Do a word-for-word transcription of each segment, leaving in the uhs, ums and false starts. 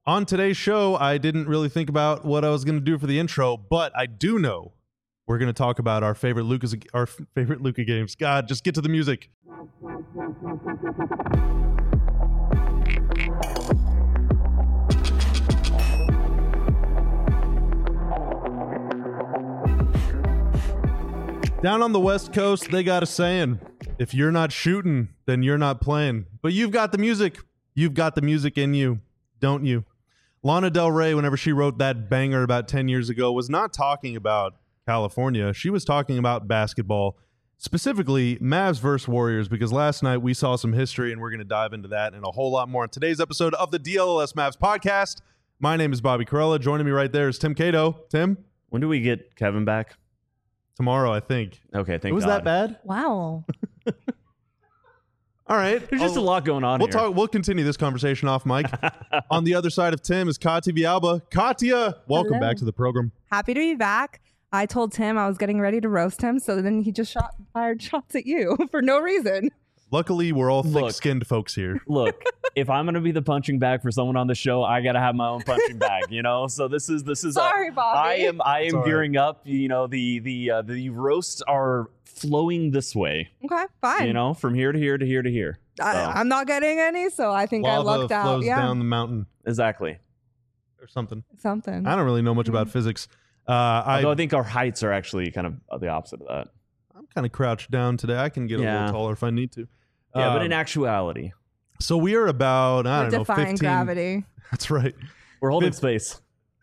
On today's show, I didn't really think about what I was going to do for the intro, but I do know we're going to talk about our favorite Lucas, our favorite Luka games. God, just get to the music. Down on the West Coast, they got a saying, if you're not shooting, then you're not playing. But you've got the music. You've got the music in you, don't you? Lana Del Rey, whenever she wrote that banger about ten years ago, was not talking about California. She was talking about basketball, specifically Mavs versus Warriors, because last night we saw some history, and we're going to dive into that and a whole lot more on today's episode of the D L L S Mavs podcast. My name is Bobby Corella. Joining me right there is Tim Cato. Tim? When do we get Kevin back? Tomorrow, I think. Okay, thank it was God. that bad? Wow. All right. There's just I'll, a lot going on we'll here. Talk, we'll continue this conversation off mic. On the other side of Tim is Katya Villalba. Katya, welcome Hello. back to the program. Happy to be back. I told Tim I was getting ready to roast him, so then he just shot fired shots at you for no reason. Luckily, we're all Look. thick-skinned folks here. Look, if I'm going to be the punching bag for someone on the show, I got to have my own punching bag, you know? So this is this is Sorry, a, Bobby. I am I am Sorry. gearing up, you know, the the uh, the roasts are flowing this way, Okay, fine. you know, from here to here to here to here. I, So, I'm not getting any, so I think I Lava lucked out. flows Yeah, down the mountain exactly. or something. something. I don't really know much about physics. Uh, I, Although I think our heights are actually kind of the opposite of that. I'm kind of crouched down today. I can get a Yeah. little taller if I need to. Yeah, but Um, in actuality, so we are about, I We're don't know, defying fifteen. gravity. That's right. we're holding fif- space.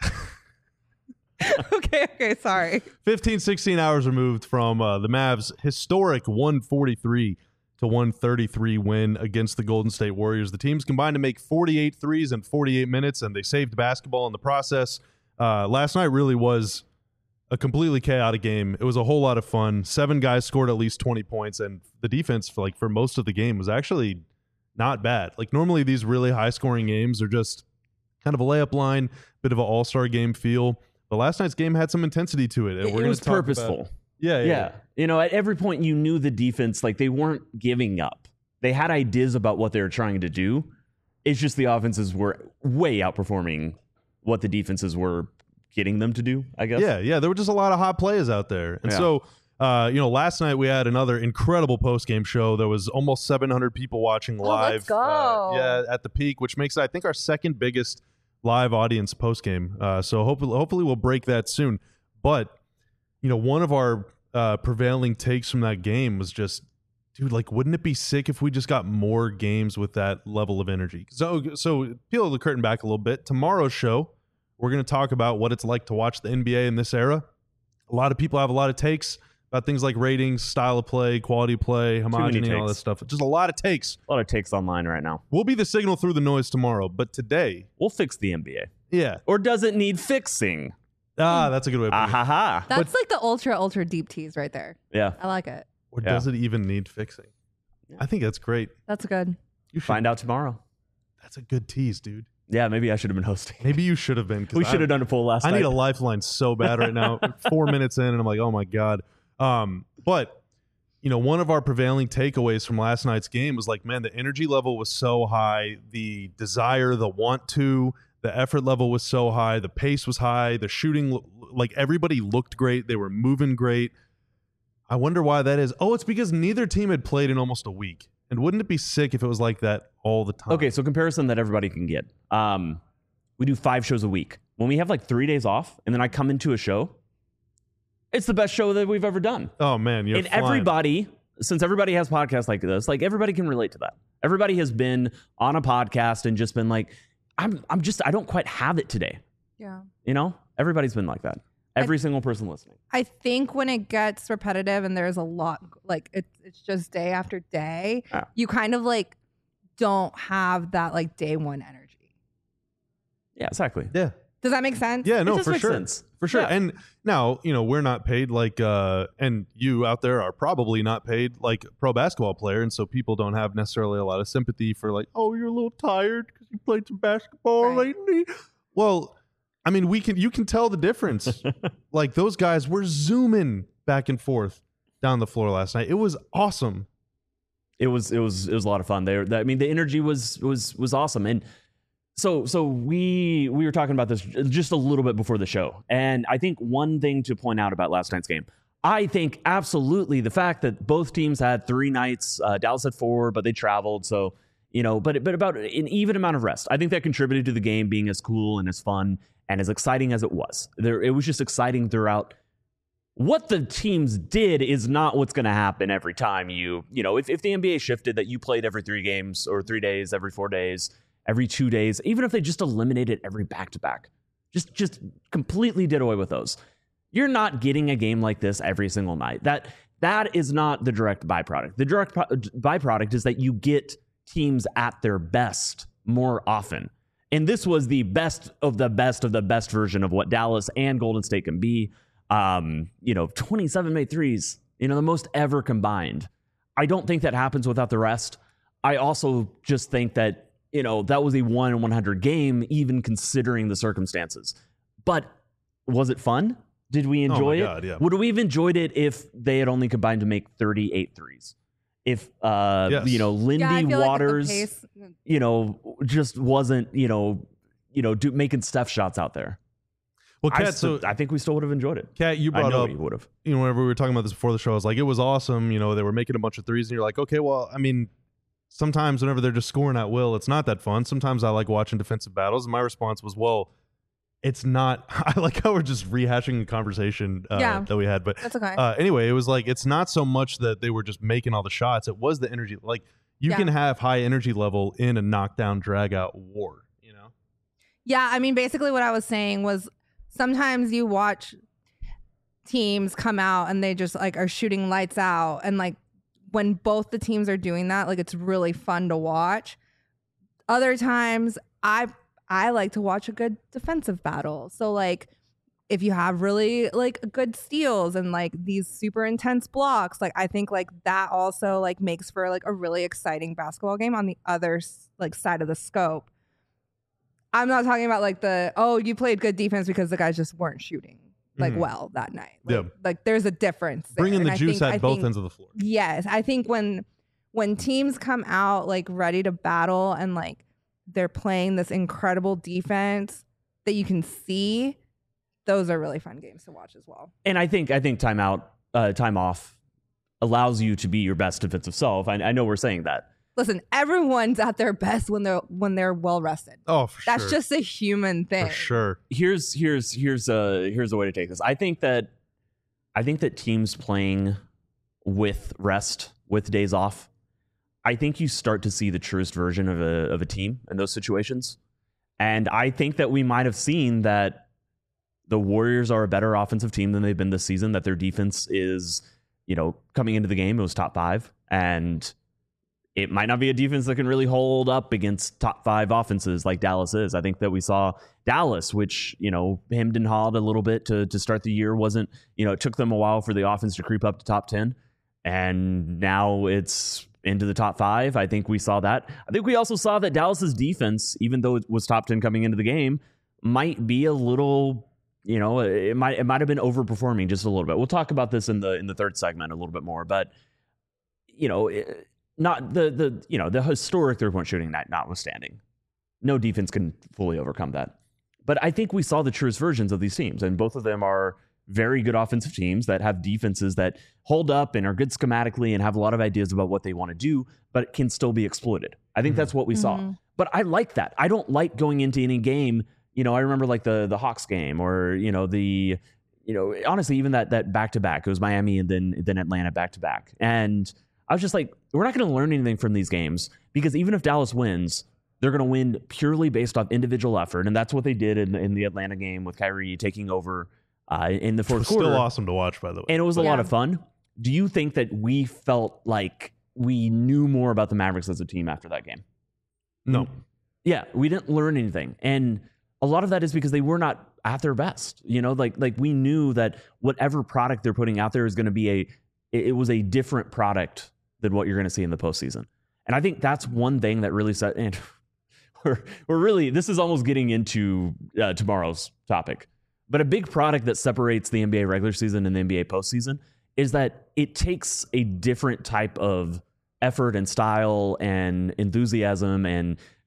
okay, okay, sorry. fifteen, sixteen hours removed from uh, the Mavs' historic one forty-three to one thirty-three win against the Golden State Warriors. The teams combined to make forty-eight threes in forty-eight minutes, and they saved basketball in the process. Uh, last night really was a completely chaotic game. It was a whole lot of fun. Seven guys scored at least twenty points, and the defense for like for most of the game was actually not bad. Like normally these really high-scoring games are just kind of a layup line, bit of an all-star game feel. But last night's game had some intensity to it. And It, we're it gonna was talk purposeful. About, yeah, yeah, Yeah. You know, at every point you knew the defense, like they weren't giving up. They had ideas about what they were trying to do. It's just the offenses were way outperforming what the defenses were getting them to do, I guess. Yeah, yeah. There were just a lot of hot plays out there. And Yeah. so, uh, you know, last night we had another incredible post-game show. There was almost seven hundred people watching Oh, live. let's go. Uh, yeah, at the peak, which makes it, I think, our second biggest live audience post-game. Uh, so hopefully, hopefully we'll break that soon. But, you know, one of our uh, prevailing takes from that game was just, dude, like, wouldn't it be sick if we just got more games with that level of energy? So, so peel the curtain back a little bit. Tomorrow's show, we're going to talk about what it's like to watch the N B A in this era. A lot of people have a lot of takes about things like ratings, style of play, quality of play, homogeny, all takes. that stuff. Just a lot of takes. A lot of takes online right now. We'll be the signal through the noise tomorrow. But today, We'll fix the N B A. yeah. Or does it need fixing? Ah, that's a good way of Ah putting it. ha ha. That's like the ultra, ultra deep tease right there. Yeah. I like it. Or Yeah. does it even need fixing? I think that's great. That's good. You should, Find out tomorrow. That's a good tease, dude. Yeah, maybe I should have been hosting. Maybe you should have been. 'cause We I- should have done a poll last I night. need a lifeline so bad right now. Four minutes in, and I'm like, oh my God. Um, but, you know, one of our prevailing takeaways from last night's game was like, man, the energy level was so high. The desire, the want to, the effort level was so high. The pace was high. The shooting, like everybody looked great. They were moving great. I wonder why that is. Oh, it's because neither team had played in almost a week. And wouldn't it be sick if it was like that all the time? Okay, so comparison that everybody can get. Um, we do five shows a week. When we have like three days off, and then I come into a show, it's the best show that we've ever done. Oh, man. You're And flying. everybody, since everybody has podcasts like this, like everybody can relate to that. Everybody has been on a podcast and just been like, I'm, I'm just, I don't quite have it today. Yeah. You know, everybody's been like that. Every single person listening. I think when it gets repetitive and there's a lot, like it's it's just day after day, Yeah. you kind of like don't have that like day one energy. Yeah, exactly. Yeah. Does that make sense? Yeah, It no, just for makes sure. sense. For sure. Yeah. And now, you know, we're not paid like, uh, and you out there are probably not paid like a pro basketball player. And so people don't have necessarily a lot of sympathy for like, oh, you're a little tired because you played some basketball Right. lately. Well, I mean, we can, you can tell the difference. Like those guys were zooming back and forth down the floor last night. It was awesome. It was it was it was a lot of fun. There, I mean, the energy was was was awesome, and So so we we were talking about this just a little bit before the show. And I think one thing to point out about last night's game, I think absolutely the fact that both teams had three nights, uh, Dallas had four, but they traveled. So, you know, but but about an even amount of rest. I think that contributed to the game being as cool and as fun and as exciting as it was. There, it was just exciting throughout. What the teams did is not what's going to happen every time you, you know, if, if the N B A shifted that you played every three games or three days, every four days, every two days, even if they just eliminated every back-to-back, just just completely did away with those. You're not getting a game like this every single night. That that is not the direct byproduct. The direct pro- byproduct is that you get teams at their best more often. And this was the best of the best of the best version of what Dallas and Golden State can be. Um, you know, twenty-seven made threes, you know, the most ever combined. I don't think that happens without the rest. I also just think that, you know, that was a one in one hundred game, even considering the circumstances. But was it fun? Did we enjoy oh my God, it? Yeah. Would we have enjoyed it if they had only combined to make thirty-eight threes? If, uh, Yes. you know, Lindy Yeah, I feel Waters, like the pace, you know, just wasn't, you know, you know, do, making Steph shots out there. Well, I, Kat, so st- I think we still would have enjoyed it. Kat, you I brought know up, we would have. you know, whenever we were talking about this before the show, I was like, it was awesome. You know, they were making a bunch of threes, and you're like, okay, well, I mean, sometimes whenever they're just scoring at will, it's not that fun. Sometimes I like watching defensive battles. And my response was, well, it's not. I like how we're just rehashing the conversation uh, Yeah. that we had. But That's okay. uh, anyway, it was like, it's not so much that they were just making all the shots. It was the energy. Like, you Yeah. can have high energy level in a knockdown, drag out war, you know? Yeah, I mean, basically what I was saying was sometimes you watch teams come out and they just like are shooting lights out, and like when both the teams are doing that, like it's really fun to watch. Other times I I like to watch a good defensive battle. So like if you have really like good steals and like these super intense blocks, like I think like that also like makes for like a really exciting basketball game on the other like side of the scope. I'm not talking about like the, oh, you played good defense because the guys just weren't shooting like Mhm. well that night. Like, Yeah. like there's a difference. there. Bringing And the I juice think- at I both think- ends of the floor. Yes, I think when when teams come out like ready to battle and like they're playing this incredible defense that you can see, those are really fun games to watch as well. And I think I think timeout, uh, time off allows you to be your best defensive self. I, I know we're saying that. Listen, everyone's at their best when they're when they're well rested. Oh, for That's sure. just a human thing. For sure. Here's here's here's a here's a way to take this. I think that I think that teams playing with rest, with days off, I think you start to see the truest version of a of a team in those situations. And I think that we might have seen that the Warriors are a better offensive team than they've been this season, that their defense is, you know, coming into the game, it was top five. And it might not be a defense that can really hold up against top five offenses like Dallas is. I think that we saw Dallas, which, you know, hemmed and hawed a little bit to, to start the year. Wasn't, you know, it took them a while for the offense to creep up to top ten. And now it's into the top five. I think we saw that. I think we also saw that Dallas's defense, even though it was top ten coming into the game, might be a little, you know, it might it might have been overperforming just a little bit. We'll talk about this in the in the third segment a little bit more, but you know, it, not the the you know the historic three point shooting night notwithstanding, no defense can fully overcome that. But I think we saw the truest versions of these teams, and both of them are very good offensive teams that have defenses that hold up and are good schematically and have a lot of ideas about what they want to do, but can still be exploited. I think Mhm. that's what we saw. Mhm. But I like that. I don't like going into any game. You know, I remember like the the Hawks game, or you know the, you know, honestly even that that back to back. It was Miami and then then Atlanta back to back, and I was just like, we're not going to learn anything from these games, because even if Dallas wins, they're going to win purely based off individual effort, and that's what they did in in the Atlanta game with Kyrie taking over uh, in the It fourth was quarter. still awesome to watch, by the way. And it was a lot Yeah. of fun. Do you think that we felt like we knew more about the Mavericks as a team after that game? No. Yeah, we didn't learn anything. And a lot of that is because they were not at their best. You know, like like we knew that whatever product they're putting out there is going to be a, it, it was a different product than what you're going to see in the postseason. And I think that's one thing that really set, and we're, we're really, this is almost getting into uh, tomorrow's topic. But a big product that separates the N B A regular season and the N B A postseason is that it takes a different type of effort and style and enthusiasm and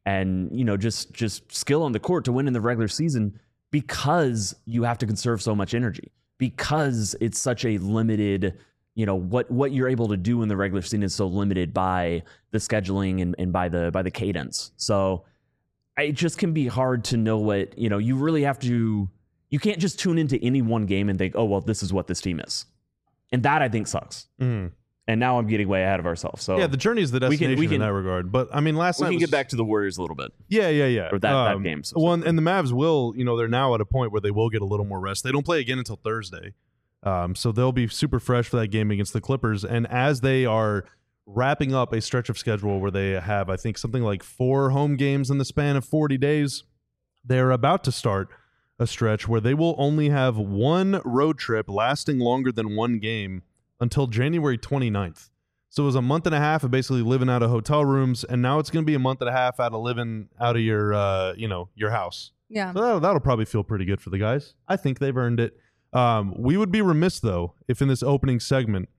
and you know just just skill on the court to win in the regular season because you have to conserve so much energy, because it's such a limited, you know, what what you're able to do in the regular season is so limited by the scheduling and, and by the by the cadence. So it just can be hard to know what, you know, you really have to, you can't just tune into any one game and think, oh, well, this is what this team is. And that I think sucks. Mm. And now I'm getting way ahead of ourselves. So yeah, the journey is the we destination can, we can, in that regard. But I mean, last we night can was, get back to the Warriors a little bit. Yeah, yeah, yeah. Or that, um, that game. So one and the Mavs will, you know, they're now at a point where they will get a little more rest. They don't play again until Thursday, um, so they'll be super fresh for that game against the Clippers. And as they are wrapping up a stretch of schedule where they have, I think, something like four home games in the span of forty days, they're about to start a stretch where they will only have one road trip lasting longer than one game until January twenty-ninth. So it was a month and a half of basically living out of hotel rooms, and now it's going to be a month and a half out of living out of your, uh, you know, your house. Yeah. So that'll, that'll probably feel pretty good for the guys. I think they've earned it. Um, we would be remiss, though, if in this opening segment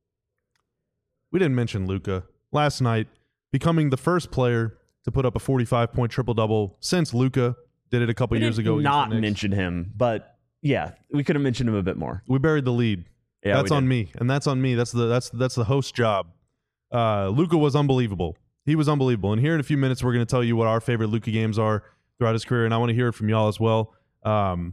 we didn't mention Luka last night becoming the first player to put up a forty-five point triple-double since Luka did it a couple we years did ago. not mention him, but yeah, we could have mentioned him a bit more. We buried the lead. Yeah, that's we on did. me, and that's on me. That's the that's that's the host job. Uh, Luka was unbelievable. He was unbelievable. And here in a few minutes, we're going to tell you what our favorite Luka games are throughout his career, and I want to hear it from y'all as well. Um,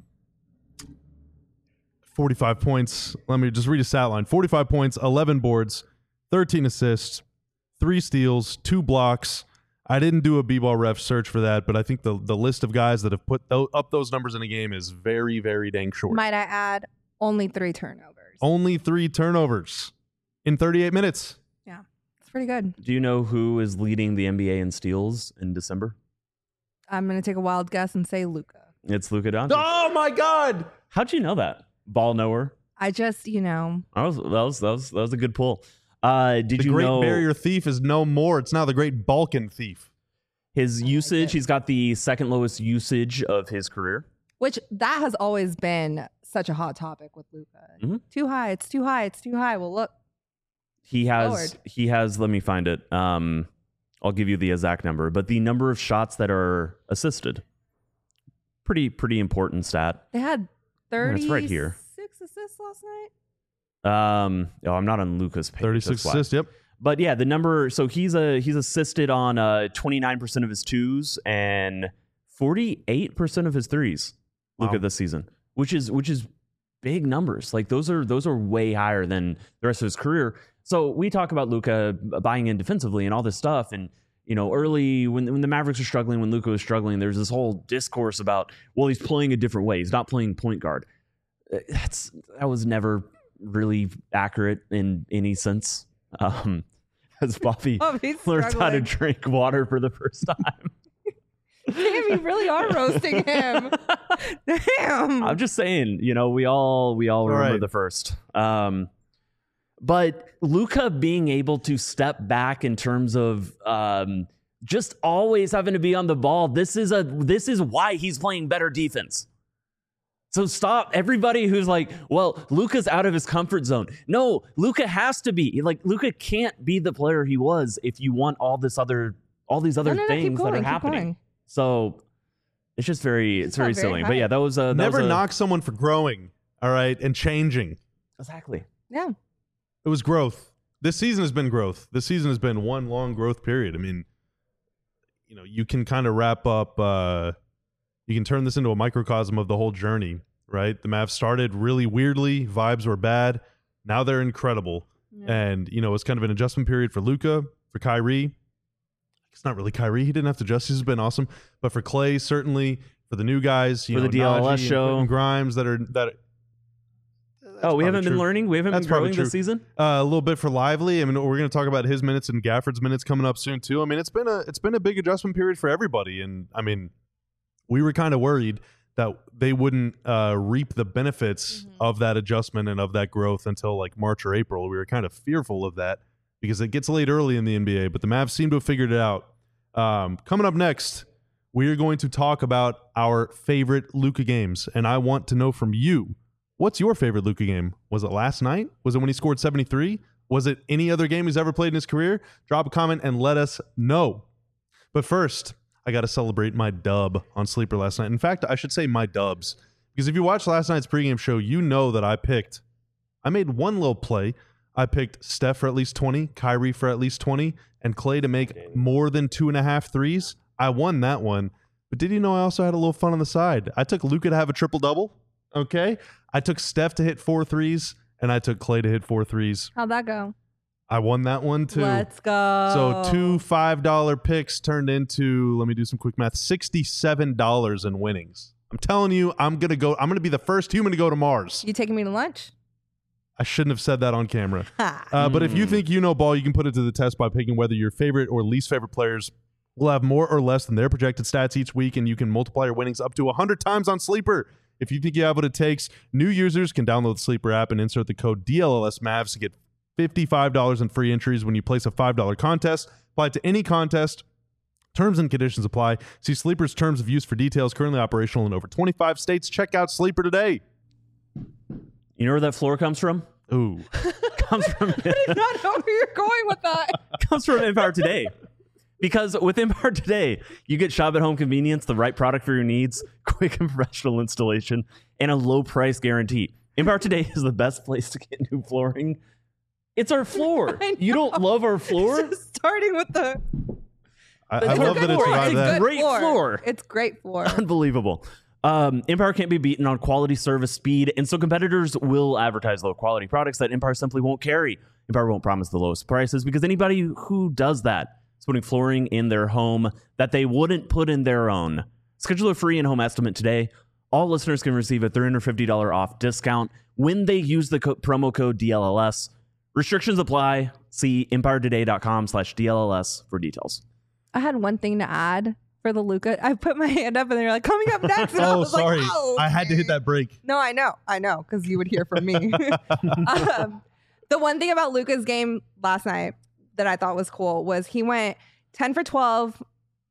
forty-five points. Let me just read a stat line: forty-five points, eleven boards, thirteen assists, three steals, two blocks. I didn't do a B-ball ref search for that, but I think the the list of guys that have put th- up those numbers in a game is very, very dang short. Might I add, only three turnovers. Only three turnovers in thirty-eight minutes. Yeah, it's pretty good. Do you know who is leading the N B A in steals in December? I'm going to take a wild guess and say Luka. It's Luka Doncic. Oh my God! How'd you know that? Ball knower. I just, you know. That was that was that was, that was a good pull. Uh, did The you Great know Barrier Thief is no more. It's now the Great Balkan Thief. his I like usage? it. He's got the second lowest usage of his career. Which that has always been such a hot topic with Luka. Mhm. Too high. It's too high. It's too high. Well, look. He has Lord. he has. Let me find it. Um, I'll give you the exact number, but the number of shots that are assisted. Pretty pretty important stat. They had thirty-six it's right here. assists last night. Um, oh, I'm not on Luka's page. thirty-six that's why. assists. Yep. But yeah, the number. So he's a he's assisted on uh twenty-nine percent of his twos and forty-eight percent of his threes. Look Wow. at this season, which is which is big numbers. Like those are those are way higher than the rest of his career. So we talk about Luka buying in defensively and all this stuff, and you know, early when when the Mavericks were struggling, when Luka was struggling, there's this whole discourse about, well, he's playing a different way. He's not playing point guard. That's that was never really accurate in any sense. Um, as Bobby Oh, he's learns how to struggling. drink water for the first time. Damn, you really are roasting him. Damn. I'm just saying, you know, we all we all All remember right. the first. Um, but Luka being able to step back in terms of um, just always having to be on the ball. This is a this is why he's playing better defense. So stop everybody who's like, well, Luka's out of his comfort zone. No, Luka has to be. Like Luka can't be the player he was if you want all this other all these other No, no, no, keep things that going, are keep happening. going. So it's just very it's not very very silly. high. But yeah, that was uh, that Never was a, knock someone for growing. All right, and changing. exactly. Yeah. It was growth. This season has been growth. This season has been one long growth period. I mean, you know, you can kind of wrap up. Uh, you can turn this into a microcosm of the whole journey, right? The Mavs started really weirdly. Vibes were bad. Now they're incredible. Yeah. And, you know, it's kind of an adjustment period for Luka, for Kyrie. It's not really Kyrie. He didn't have to adjust. He's been awesome. But for Clay, certainly. For the new guys, you For know, the D L S Najee and show. Quentin Grimes that are that. Oh, we probably haven't been true. learning. We haven't That's been probably growing true. this season. Uh, a little bit for Lively. I mean, we're going to talk about his minutes and Gafford's minutes coming up soon too. I mean, it's been a it's been a big adjustment period for everybody, and I mean, we were kind of worried that they wouldn't uh, reap the benefits Mhm. of that adjustment and of that growth until like March or April. We were kind of fearful of that because it gets late early in the N B A, but the Mavs seem to have figured it out. Um, coming up next, we are going to talk about our favorite Luka games, and I want to know from you. What's your favorite Luka game? Was it last night? Was it when he scored seventy-three? Was it any other game he's ever played in his career? Drop a comment and let us know. But first, I got to celebrate my dub on Sleeper last night. In fact, I should say my dubs. Because if you watched last night's pregame show, you know that I picked, I made one little play. I picked Steph for at least twenty, Kyrie for at least twenty, and Clay to make more than two and a half threes. I won that one. But did you know I also had a little fun on the side? I took Luka to have a triple-double, okay? I took Steph to hit four threes, and I took Clay to hit four threes. How'd that go? I won that one, too. Let's go. So two five dollar picks turned into, let me do some quick math, sixty-seven dollars in winnings. I'm telling you, I'm going to go. I'm going to be the first human to go to Mars. You taking me to lunch? I shouldn't have said that on camera. uh, but if you think you know ball, you can put it to the test by picking whether your favorite or least favorite players will have more or less than their projected stats each week, and you can multiply your winnings up to one hundred times on Sleeper. If you think you have what it takes, new users can download the Sleeper app and insert the code D L L S Mavs to get fifty-five dollars in free entries when you place a five dollar contest. Apply it to any contest. Terms and conditions apply. See Sleeper's terms of use for details. Currently operational in over twenty-five states. Check out Sleeper today. You know where that floor comes from? Ooh. comes from I did not know where you're going with that. comes from Empire Today. Because with Empire Today, you get shop at home convenience, the right product for your needs, quick and professional installation, and a low price guarantee. Empire Today is the best place to get new flooring. It's our floor. You don't love our floor? Just starting with the. I, It's I a love good that it floor. survived It's that. good Great floor. It's great floor. Unbelievable. Um, Empire can't be beaten on quality, service, speed, and so competitors will advertise low quality products that Empire simply won't carry. Empire won't promise the lowest prices because anybody who does that is putting flooring in their home that they wouldn't put in their own. Schedule a free in-home estimate today. All listeners can receive a three hundred fifty dollars off discount when they use the co- promo code D L L S. Restrictions apply. See empiretoday.com slash DLLS for details. I had one thing to add for the Luka. I put my hand up and they were like, coming up next. And I Oh, was sorry. Like, oh, I had to hit that break. No, I know. I know, because you would hear from me. um, the one thing about Luka's game last night that I thought was cool was he went ten for twelve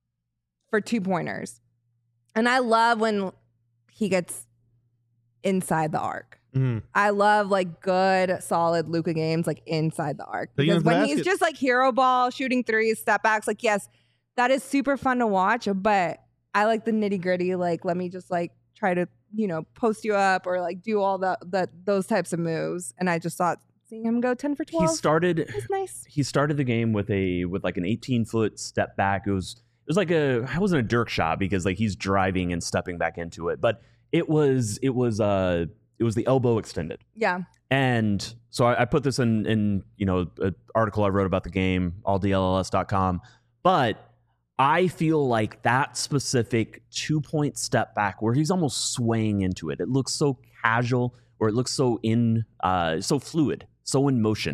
for two pointers. And I love when he gets inside the arc. Mm. I love like good, solid Luka games like inside the arc. Taking Because it to the when he's basket. just like hero ball, shooting threes, step backs, like yes, that is super fun to watch. But I like the nitty gritty. Like let me just like try to you know post you up or like do all the the those types of moves. And I just thought seeing him go ten for twelve. He started was nice. he started the game with a with like an eighteen foot step back. It was it was like a it wasn't a Dirk shot because like he's driving and stepping back into it, but it was it was uh it was the elbow extended. Yeah. And so I, I put this in in you know an article I wrote about the game, all D L L S dot com. But I feel like that specific two point step back where he's almost swaying into it. It looks so casual, or it looks so in uh so fluid, so in motion.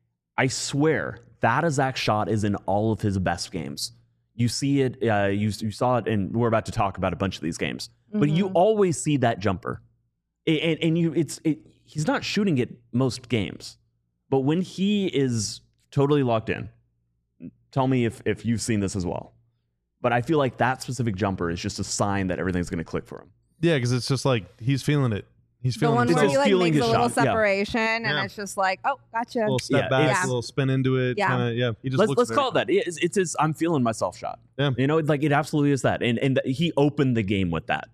I swear that exact shot is in all of his best games. You see it, uh, you you saw it, and we're about to talk about a bunch of these games. But you Mhm. always see that jumper, and, and, and you it's it, he's not shooting it most games, but when he is totally locked in, tell me if if you've seen this as well. But I feel like that specific jumper is just a sign that everything's going to click for him. Yeah, because it's just like he's feeling it. He's The feeling one his where his he like feeling makes a his little shot, yeah. separation and Yeah. it's just like, oh, gotcha. little step Yeah, back, it's- a little spin into it. Yeah. Kinda, yeah. He just Let's looks let's very- call it that. It's, it's his I'm feeling myself shot. Yeah. You know, like it absolutely is that, and and th- he opened the game with that.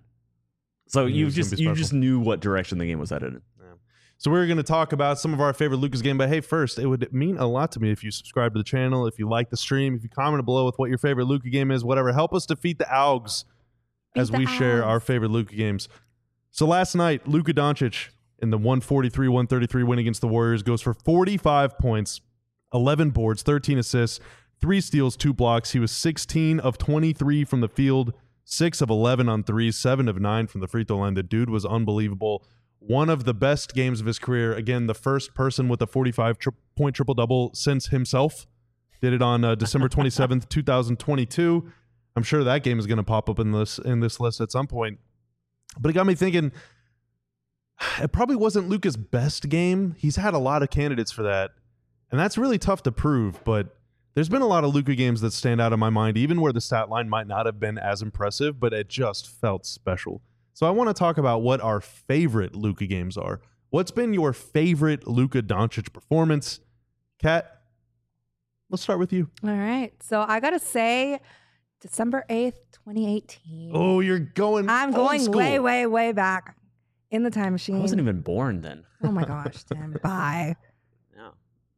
So He you was gonna just be you special. just knew what direction the game was headed in. So we're going to talk about some of our favorite Lucas game. But hey, first, it would mean a lot to me if you subscribe to the channel, if you like the stream, if you comment below with what your favorite Luka game is, whatever. Help us defeat the Augs as the we share our Augs. favorite Luka games. So last night, Luka Doncic in the one forty-three one thirty-three win against the Warriors goes for forty-five points, eleven boards, thirteen assists, three steals, two blocks. He was sixteen of twenty-three from the field, six of eleven on threes, seven of nine from the free throw line. The dude was unbelievable. One of the best games of his career. Again, the first person with a forty-five tri- point triple-double since himself. Did it on uh, December twenty-seventh, twenty twenty-two. I'm sure that game is going to pop up in this in this list at some point. But it got me thinking, it probably wasn't Luka's best game. He's had a lot of candidates for that. And that's really tough to prove, but there's been a lot of Luka games that stand out in my mind, even where the stat line might not have been as impressive, but it just felt special. So I want to talk about what our favorite Luka games are. What's been your favorite Luka Doncic performance? Kat, let's start with you. All right. So I got to say, December eighth, twenty eighteen. Oh, you're going. I'm old going school. way, way, way back in the time machine. I wasn't even born then. Oh my gosh, Tim. Bye. Yeah.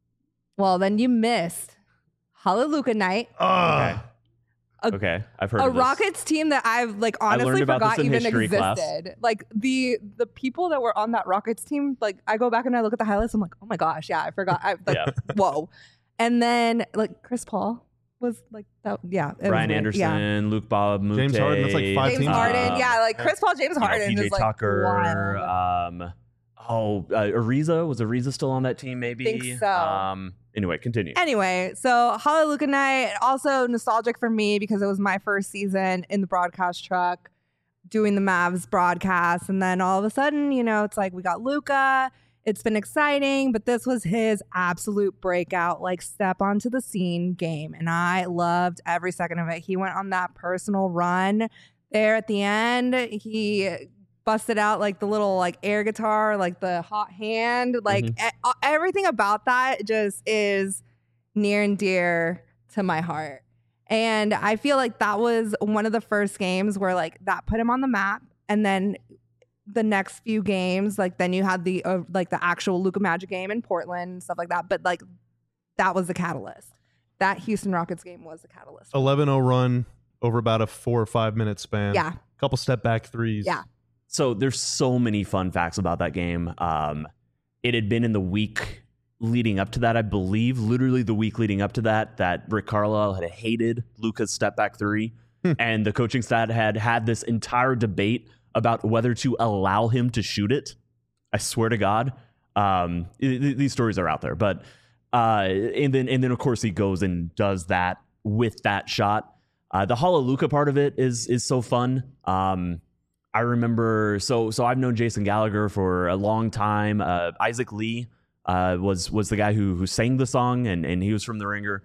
Well, then you missed Hallelujah Night. Ah. A- Okay, I've heard A of this. Rockets team that I've like I learned honestly about this forgot in even history class. existed. Like the the people that were on that Rockets team, like I go back and I look at the highlights, I'm like, oh my gosh, yeah, I forgot. I like Yeah. whoa. And then like Chris Paul was like that, yeah. it was Ryan weird. Anderson, Yeah. Luke Bob, Mute, James Harden, that's like five James teams. Harden, um, yeah, like Chris Paul, James you know, Harden P J is like Tucker. wild. Um, oh, uh, Ariza was Ariza still on that team? Maybe. Think so. Um, anyway, continue. Anyway, so Hallelujah Night, also nostalgic for me because it was my first season in the broadcast truck doing the Mavs broadcast. And then all of a sudden, you know, it's like we got Luka. It's been exciting, but this was his absolute breakout, like step onto the scene game. And I loved every second of it. He went on that personal run there at the end. He busted out like the little like air guitar, like the hot hand, like Mhm. e- everything about that just is near and dear to my heart. And I feel like that was one of the first games where like that put him on the map. And then the next few games, like then you had the uh, like the actual Luka Magic game in Portland and stuff like that. But like that was the catalyst. That Houston Rockets game was the catalyst. eleven oh run over about a four or five minute span. Yeah. Couple step back threes. Yeah. So there's so many fun facts about that game. Um, it had been in the week leading up to that, I believe, literally the week leading up to that, that Rick Carlisle had hated Luka's step back three. And the coaching staff had had this entire debate about whether to allow him to shoot it. I swear to God. Um, th- th- these stories are out there. But uh, and then and then of course he goes and does that with that shot. Uh, the Hallelujah part of it is is so fun. Um, I remember so so I've known Jason Gallagher for a long time. Uh, Isaac Lee uh, was was the guy who who sang the song, and and he was from the Ringer,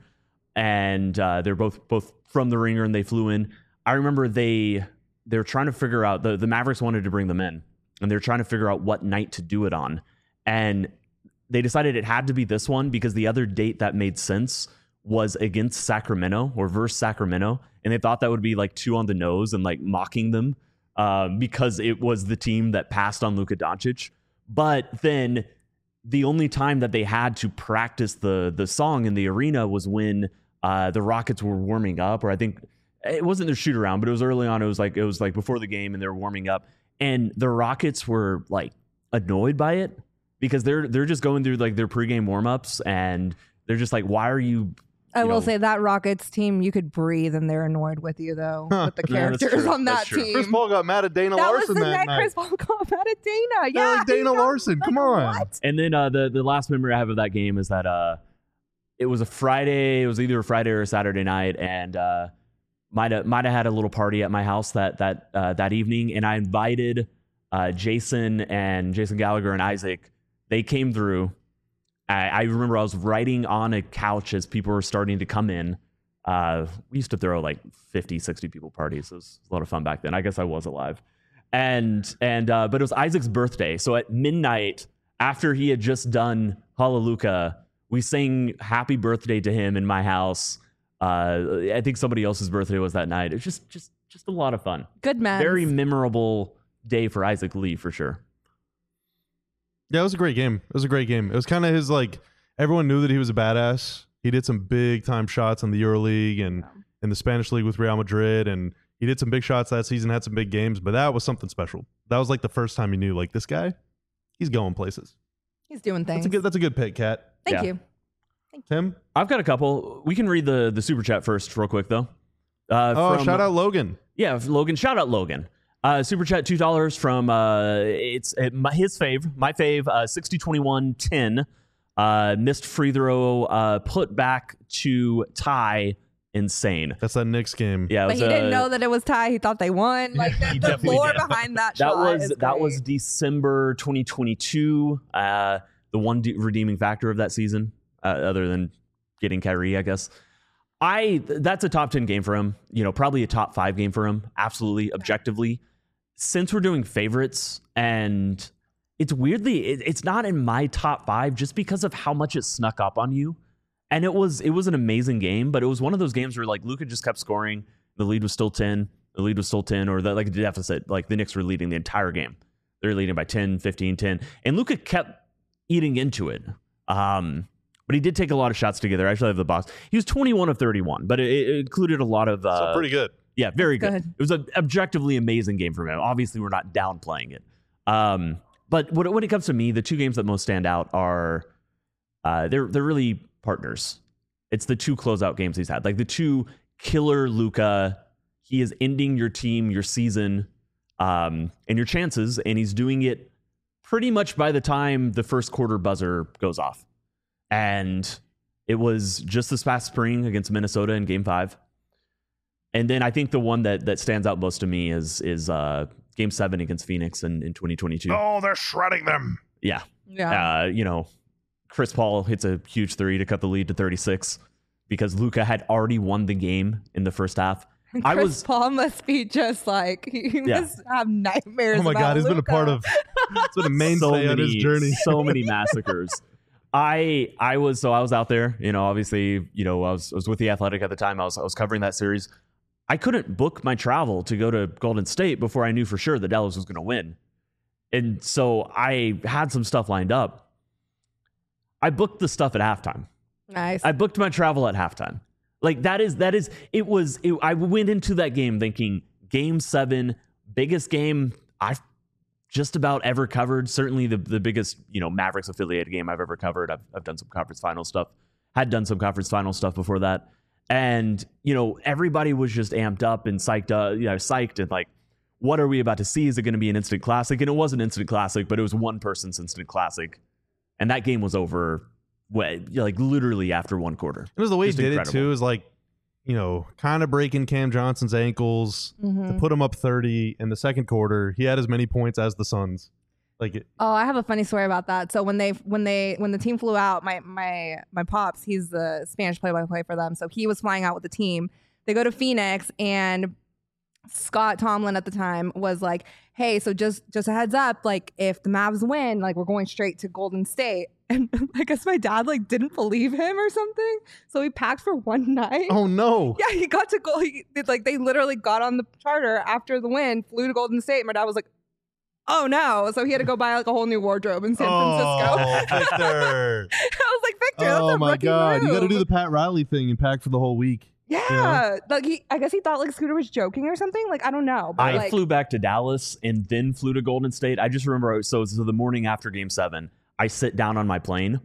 and uh, they're both both from the Ringer, and they flew in. I remember they they're trying to figure out the the Mavericks wanted to bring them in, and they're trying to figure out what night to do it on, and they decided it had to be this one because the other date that made sense was against Sacramento or versus Sacramento, and they thought that would be like two on the nose and like mocking them. Um, because it was the team that passed on Luka Doncic. But then the only time that they had to practice the the song in the arena was when uh, the Rockets were warming up, or I think it wasn't their shoot around, but it was early on. It was like it was like before the game, and they were warming up, and the Rockets were like annoyed by it because they're they're just going through like their pregame warmups, and they're just like, why are you? I you will know, say that Rockets team, you could breathe and they're annoyed with you though, Huh. with the Yeah, that's characters true. on that That's true. team. Chris Paul got mad at Dana that was Larson the that night night. Chris Paul got mad at Dana. Yeah, Yeah, like Dana he got- Larson. Come like, on. What? And then uh, the the last memory I have of that game is that uh, it was a Friday. It was either a Friday or a Saturday night, and uh, might have might have had a little party at my house that that uh, that evening, and I invited uh, Jason and Jason Gallagher and Isaac. They came through. I, I remember I was writing on a couch as people were starting to come in. Uh, we used to throw like fifty, sixty people parties. It was a lot of fun back then. I guess I was alive. And, and, uh, but it was Isaac's birthday. So at midnight, after he had just done Hallelujah, we sang happy birthday to him in my house. Uh, I think somebody else's birthday was that night. It was just, just, just a lot of fun. Good man. Very memorable day for Isaac Lee for sure. Yeah, it was a great game. It was a great game. It was kind of his like everyone knew that he was a badass. He did some big time shots in the EuroLeague and in the Spanish league with Real Madrid, and he did some big shots that season. Had some big games, but that was something special. That was like the first time you knew like this guy, he's going places. He's doing things. That's a good. That's a good pick, Kat. Thank Yeah. you. Tim. I've got a couple. We can read the, the super chat first real quick though. Uh, Oh, from- shout out Logan. Yeah, Logan. Shout out Logan. Uh, super chat two dollars from uh, it's uh, my, his fave, my fave, uh, sixty twenty-one ten. Uh, missed free throw, uh, put back to tie. Insane. That's that Knicks game. Yeah, it But was, he didn't uh, know that it was Ty. He thought they won. Like the, he the definitely lore did. behind that, that shot was is that was great. December twenty twenty-two. Uh, the one de- redeeming factor of that season, uh, other than getting Kyrie, I guess. I that's a top ten game for him. You know, probably a top five game for him. Absolutely, objectively. Since we're doing favorites, and it's weirdly, it, it's not in my top five just because of how much it snuck up on you. And it was it was an amazing game, but it was one of those games where like Luka just kept scoring, The lead was still ten. The lead was still ten, or the, like the deficit. Like the Knicks were leading the entire game. They're leading by ten, fifteen, ten. And Luka kept eating into it. Um, but he did take a lot of shots together. I actually have the box. He was twenty-one of thirty-one, but it, it included a lot of... Uh, so pretty good. Yeah, very good. good. It was an objectively amazing game from him. Obviously, we're not downplaying it. Um, but when, when it comes to me, the two games that most stand out are... Uh, they're they're really partners. It's the two closeout games he's had. Like the two killer Luka. He is ending your team, your season, um, and your chances, and he's doing it pretty much by the time the first quarter buzzer goes off. And it was just this past spring against Minnesota in Game Five. And then I think the one that that stands out most to me is is uh, Game Seven against Phoenix in, in twenty twenty-two. Oh, they're shredding them. Yeah, Yeah. uh, you know. Chris Paul hits a huge three to cut the lead to thirty-six because Luka had already won the game in the first half. And I Chris was Paul must be just like he Yeah. must have nightmares. Oh my about God, he's been a Luka. part of. It's been a mainstay so on many, his journey. so many massacres. I I was so I was out there. You know, obviously, you know, I was I was with the Athletic at the time. I was I was covering that series. I couldn't book my travel to go to Golden State before I knew for sure that Dallas was going to win, and so I had some stuff lined up. I booked the stuff at halftime. Nice. I booked my travel at halftime. Like that is, that is, it was, it, I went into that game thinking game seven, biggest game I've just about ever covered. Certainly the, the biggest, you know, Mavericks affiliated game I've ever covered. I've, I've done some conference final stuff, had done some conference final stuff before that. And, you know, everybody was just amped up and psyched, uh, you know, psyched and like, what are we about to see? Is it going to be an instant classic? And it was an instant classic, but it was one person's instant classic. And that game was over, like literally after one quarter. It was the way Just he did incredible. it too. Is like, you know, kind of breaking Cam Johnson's ankles Mhm. to put him up thirty in the second quarter. He had as many points as the Suns. Like, it, Oh, I have a funny story about that. So when they when they when the team flew out, my my my pops, he's the Spanish play-by-play for them. So he was flying out with the team. They go to Phoenix, and Scott Tomlin at the time was like, "Hey, so just just a heads up, like if the Mavs win, like we're going straight to Golden State." And I guess my dad like didn't believe him or something, so he packed for one night. oh no! Yeah, he got to go. He, it's like they literally got on the charter after the win, flew to Golden State. My dad was like, "Oh no!" So he had to go buy like a whole new wardrobe in San Oh, Francisco. Victor! I was like, Victor, that's oh a my rookie God! You got to move. do the Pat Riley thing and pack for the whole week. Yeah, like he, I guess he thought like Scooter was joking or something. Like I don't know. But I like, flew back to Dallas and then flew to Golden State. I just remember, so, so the morning after game seven, I sit down on my plane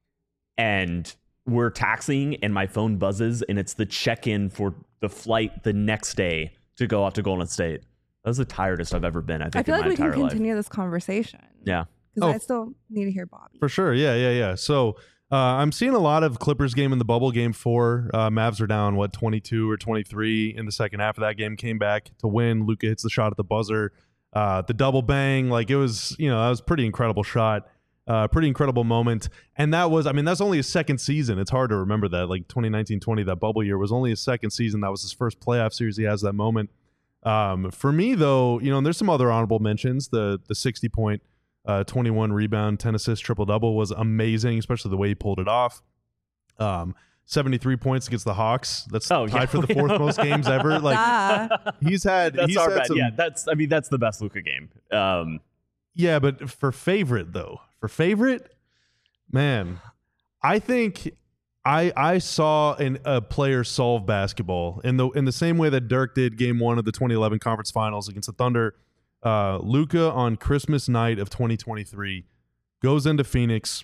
and we're taxiing and my phone buzzes and it's the check-in for the flight the next day to go off to Golden State. That was the tiredest I've ever been, I think, I feel in like my we can entire life. continue this conversation. Yeah. because Oh. I still need to hear Bobby. For sure. Yeah, yeah, yeah. So uh, I'm seeing a lot of Clippers game in the bubble. Game four, uh, Mavs are down, what, twenty-two or twenty-three in the second half of that game. Came back to win. Luka hits the shot at the buzzer. Uh, the double bang, like it was, you know, that was a pretty incredible shot. Uh, pretty incredible moment. And that was, I mean, that's only his second season. It's hard to remember that. Like twenty nineteen twenty, that bubble year was only his second season. That was his first playoff series. He has that moment. Um, for me, though, you know, and there's some other honorable mentions. The the sixty point, uh, twenty-one rebound, ten assist, triple double was amazing, especially the way he pulled it off. Um, seventy-three points against the Hawks. That's Oh, tied yeah. for the fourth most games ever. Like Ah. he's had, That's he's our had bad. some, Yeah, that's. I mean, that's the best Luka game. Um, yeah, but for favorite though, for favorite, man, I think I I saw an, a player solve basketball in the in the same way that Dirk did Game One of the twenty eleven Conference Finals against the Thunder. Uh, Luka on Christmas night of twenty twenty-three goes into Phoenix.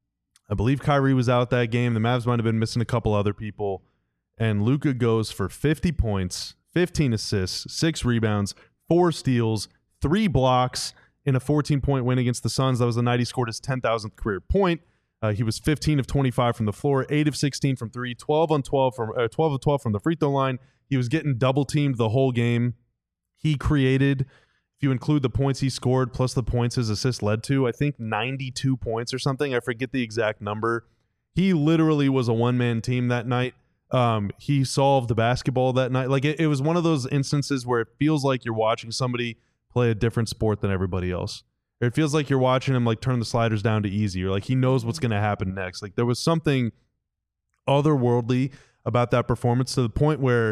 I believe Kyrie was out that game. The Mavs might have been missing a couple other people, and Luka goes for fifty points, fifteen assists, six rebounds, four steals, three blocks in a fourteen point win against the Suns. That was the night he scored his ten thousandth career point. Uh, he was fifteen of twenty-five from the floor, eight of sixteen from three, twelve on twelve from uh, twelve of twelve from the free throw line. He was getting double teamed the whole game. He created, if you include the points he scored plus the points his assist led to, I think ninety-two points or something. I forget the exact number. He literally was a one-man team that night. Um, he solved the basketball that night. Like it, it was one of those instances where it feels like you're watching somebody play a different sport than everybody else. It feels like you're watching him like turn the sliders down to easy, or like he knows what's going to happen next. Like there was something otherworldly about that performance to the point where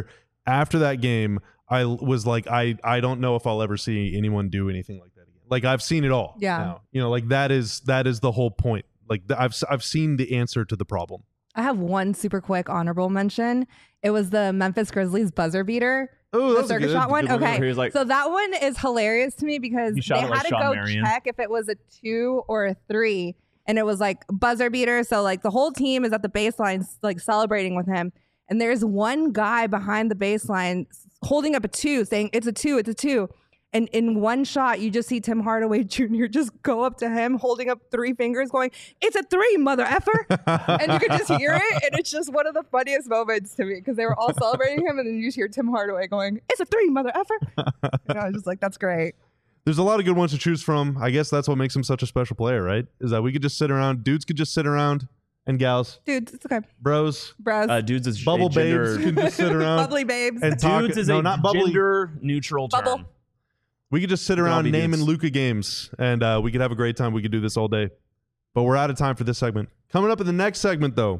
after that game, I was like, I, I don't know if I'll ever see anyone do anything like that again. Like I've seen it all. Yeah. Now. You know, like that is that is the whole point. Like th- I've I've seen the answer to the problem. I have one super quick honorable mention. It was the Memphis Grizzlies buzzer beater. Oh, The that's a circus good, shot one. good one. Okay. He was like- so that one is hilarious to me because He they shot it had like to Sean go Marion. check if it was a two or a three. And it was like buzzer beater. So like the whole team is at the baseline, like celebrating with him. And there's one guy behind the baseline holding up a two saying, it's a two, it's a two. And in one shot, you just see Tim Hardaway Junior just go up to him, holding up three fingers, going, it's a three, mother effer. And you could just hear it. And it's just one of the funniest moments to me because they were all celebrating him. And then you just hear Tim Hardaway going, it's a three, mother effer. And I was just like, that's great. There's a lot of good ones to choose from. I guess that's what makes him such a special player, right? Is that we could just sit around, dudes could just sit around, and gals, Dude, it's okay. bros, Bros. Uh, dudes is bubble a gender, babes can just sit around Bubbly babes. and talk. dudes is no, a not bubbly. gender neutral term. Bubble. We could just sit can all around be naming dudes. Luka games, and uh, we could have a great time. We could do this all day. But we're out of time for this segment. Coming up in the next segment, though,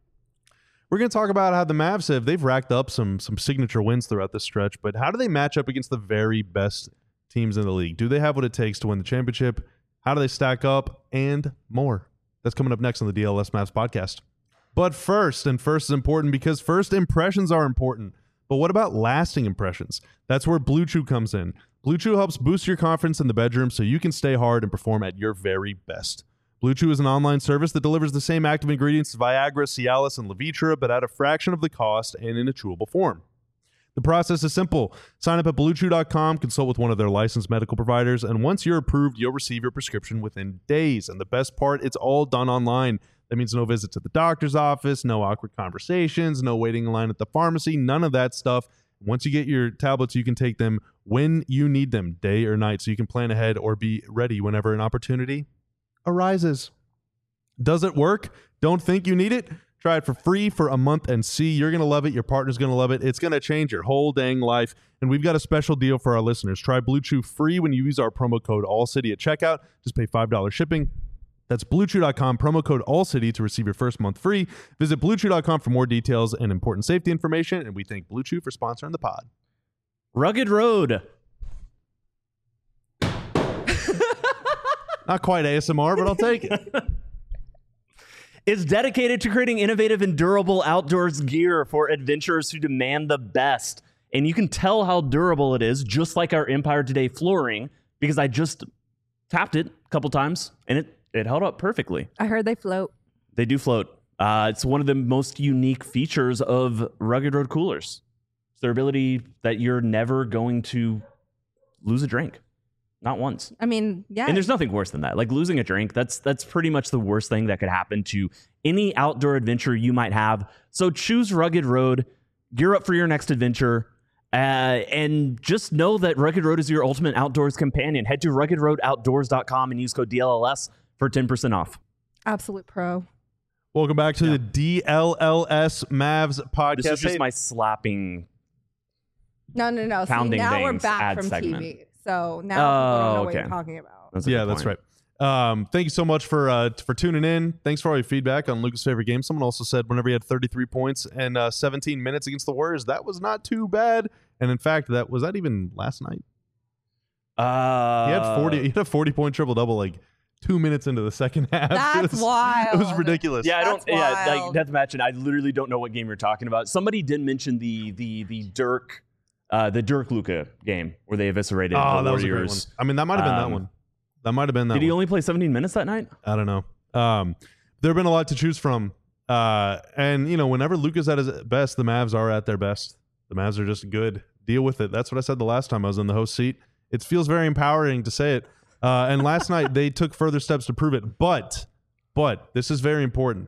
we're going to talk about how the Mavs have they've racked up some some signature wins throughout this stretch. But how do they match up against the very best teams in the league? Do they have what it takes to win the championship? How do they stack up? And more. That's coming up next on the D L S Mavs podcast. But first, and first is important because first impressions are important. But what about lasting impressions? That's where Blue Chew comes in. Blue Chew helps boost your confidence in the bedroom so you can stay hard and perform at your very best. Blue Chew is an online service that delivers the same active ingredients as Viagra, Cialis, and Levitra, but at a fraction of the cost and in a chewable form. The process is simple. Sign up at blue chew dot com, consult with one of their licensed medical providers, and once you're approved, you'll receive your prescription within days. And the best part, it's all done online. That means no visits at the doctor's office, no awkward conversations, no waiting in line at the pharmacy, none of that stuff. Once you get your tablets, you can take them when you need them, day or night, so you can plan ahead or be ready whenever an opportunity arises. Does it work? Don't think you need it? Try it for free for a month and see. You're going to love it. Your partner's going to love it. It's going to change your whole dang life. And we've got a special deal for our listeners. Try Blue Chew free when you use our promo code ALLCITY at checkout. Just pay five dollars shipping. That's blue chew dot com, promo code ALLCITY to receive your first month free. Visit blue chew dot com for more details and important safety information. And we thank Blue Chew for sponsoring the pod. Rugged Road. Not quite A S M R, but I'll take it. Is dedicated to creating innovative and durable outdoors gear for adventurers who demand the best. And you can tell how durable it is, just like our Empire Today flooring, because I just tapped it a couple times and it, it held up perfectly. I heard they float. They do float. Uh, it's one of the most unique features of Rugged Road coolers. It's their ability that you're never going to lose a drink. Not once. I mean, yeah. And there's nothing worse than that. Like losing a drink, that's that's pretty much the worst thing that could happen to any outdoor adventure you might have. So choose Rugged Road, gear up for your next adventure, uh, and just know that Rugged Road is your ultimate outdoors companion. Head to rugged road outdoors dot com and use code D L L S for ten percent off. Absolute pro. Welcome back to the D L L S Mavs podcast. This is just Hey, my slapping. No, no, no. See, Pounding now we're things back ad from segment. T V. So now people don't know Oh, what you're okay. talking about. That's a yeah, good that's point. right. Um, thank you so much for uh, for tuning in. Thanks for all your feedback on Luka's favorite game. Someone also said whenever he had thirty-three points and uh, seventeen minutes against the Warriors, that was not too bad. And in fact, that was that even last night. Uh, He had forty. He had a forty-point triple double like two minutes into the second half. That's it was, wild. It was ridiculous. Yeah, I don't. That's Yeah, like wild. death match, and I literally don't know what game you're talking about. Somebody did mention the the the Dirk, uh, the Dirk Luka game where they eviscerated Oh, the that was a great one. Warriors. I mean, that might have been that Um, one. That might have been that Did he one. only play seventeen minutes that night? I don't know. Um, there have been a lot to choose from. Uh, and, you know, whenever Luka's at his best, the Mavs are at their best. The Mavs are just good. Deal with it. That's what I said the last time I was in the host seat. It feels very empowering to say it. Uh, and last night, they took further steps to prove it. But, but, this is very important.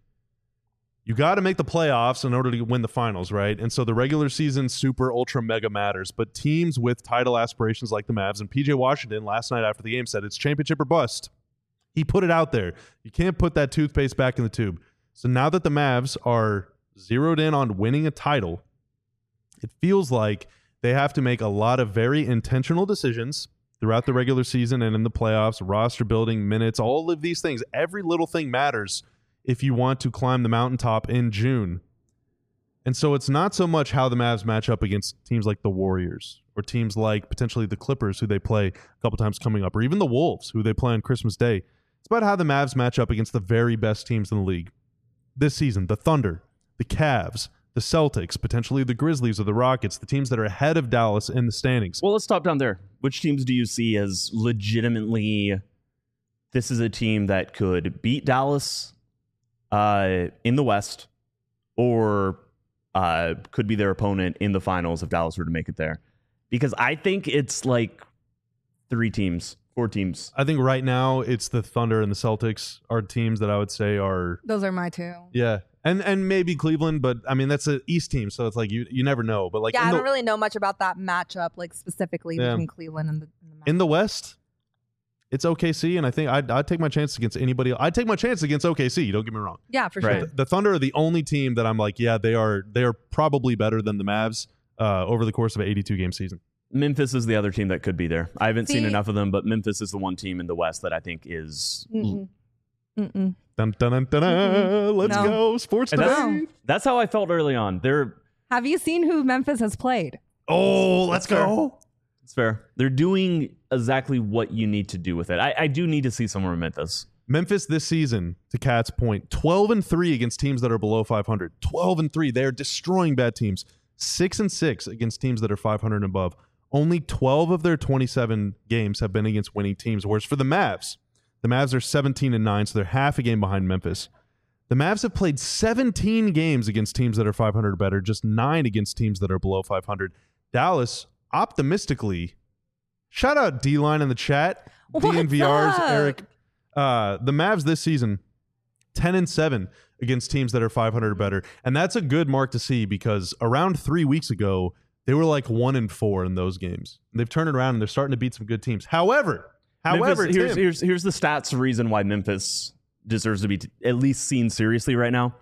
You got to make the playoffs in order to win the finals, right? And so the regular season super ultra mega matters. But teams with title aspirations like the Mavs, and P J Washington last night after the game said it's championship or bust. He put it out there. You can't put that toothpaste back in the tube. So now that the Mavs are zeroed in on winning a title, it feels like they have to make a lot of very intentional decisions throughout the regular season and in the playoffs, roster building, minutes, all of these things. Every little thing matters if you want to climb the mountaintop in June. And so it's not so much how the Mavs match up against teams like the Warriors or teams like potentially the Clippers, who they play a couple times coming up, or even the Wolves, who they play on Christmas Day. It's about how the Mavs match up against the very best teams in the league. This season, the Thunder, the Cavs, the Celtics, potentially the Grizzlies or the Rockets, the teams that are ahead of Dallas in the standings. Well, let's stop down there. Which teams do you see as legitimately, this is a team that could beat Dallas uh, in the West, or uh, could be their opponent in the finals if Dallas were to make it there? Because I think it's like three teams, four teams. I think right now it's the Thunder and the Celtics are teams that I would say are... Those are my two. Yeah. And and maybe Cleveland, but I mean, that's an East team, so it's like you you never know. But like Yeah, in I the, don't really know much about that matchup, like specifically Yeah. between Cleveland and the, and the Mavs. in the West, it's O K C, and I think I'd, I'd take my chance against anybody. I'd take my chance against O K C, don't get me wrong. Yeah, for Right. sure. The Thunder are the only team that I'm like, yeah, they are they are probably better than the Mavs uh, over the course of an eighty-two game season. Memphis is the other team that could be there. I haven't seen See- enough of them, but Memphis is the one team in the West that I think is... Mm-mm. Mm-mm. Dun, dun, dun, dun, dun. Mm-mm. Let's No. go, sports And today. that's, that's how I felt early on. They're... Have you seen who Memphis has played? Oh, let's That's fair. go. It's fair. They're doing exactly what you need to do with it. I, I do need to see somewhere in Memphis. Memphis this season, to Cat's point, twelve and three against teams that are below five hundred. twelve and three. They're destroying bad teams. six and six against teams that are five hundred and above. Only twelve of their twenty-seven games have been against winning teams. Whereas for the Mavs, the Mavs are seventeen and nine, so they're half a game behind Memphis. The Mavs have played seventeen games against teams that are five hundred or better, just nine against teams that are below five hundred. Dallas, optimistically, shout out D-Line in the chat. What's D N V R's up? Eric. Uh, the Mavs this season, ten and seven against teams that are five hundred or better. And that's a good mark to see because around three weeks ago, they were like one and four in those games. And they've turned it around and they're starting to beat some good teams. However, however, Memphis, here's, Tim- here's, here's the stats reason why Memphis deserves to be t- at least seen seriously right now.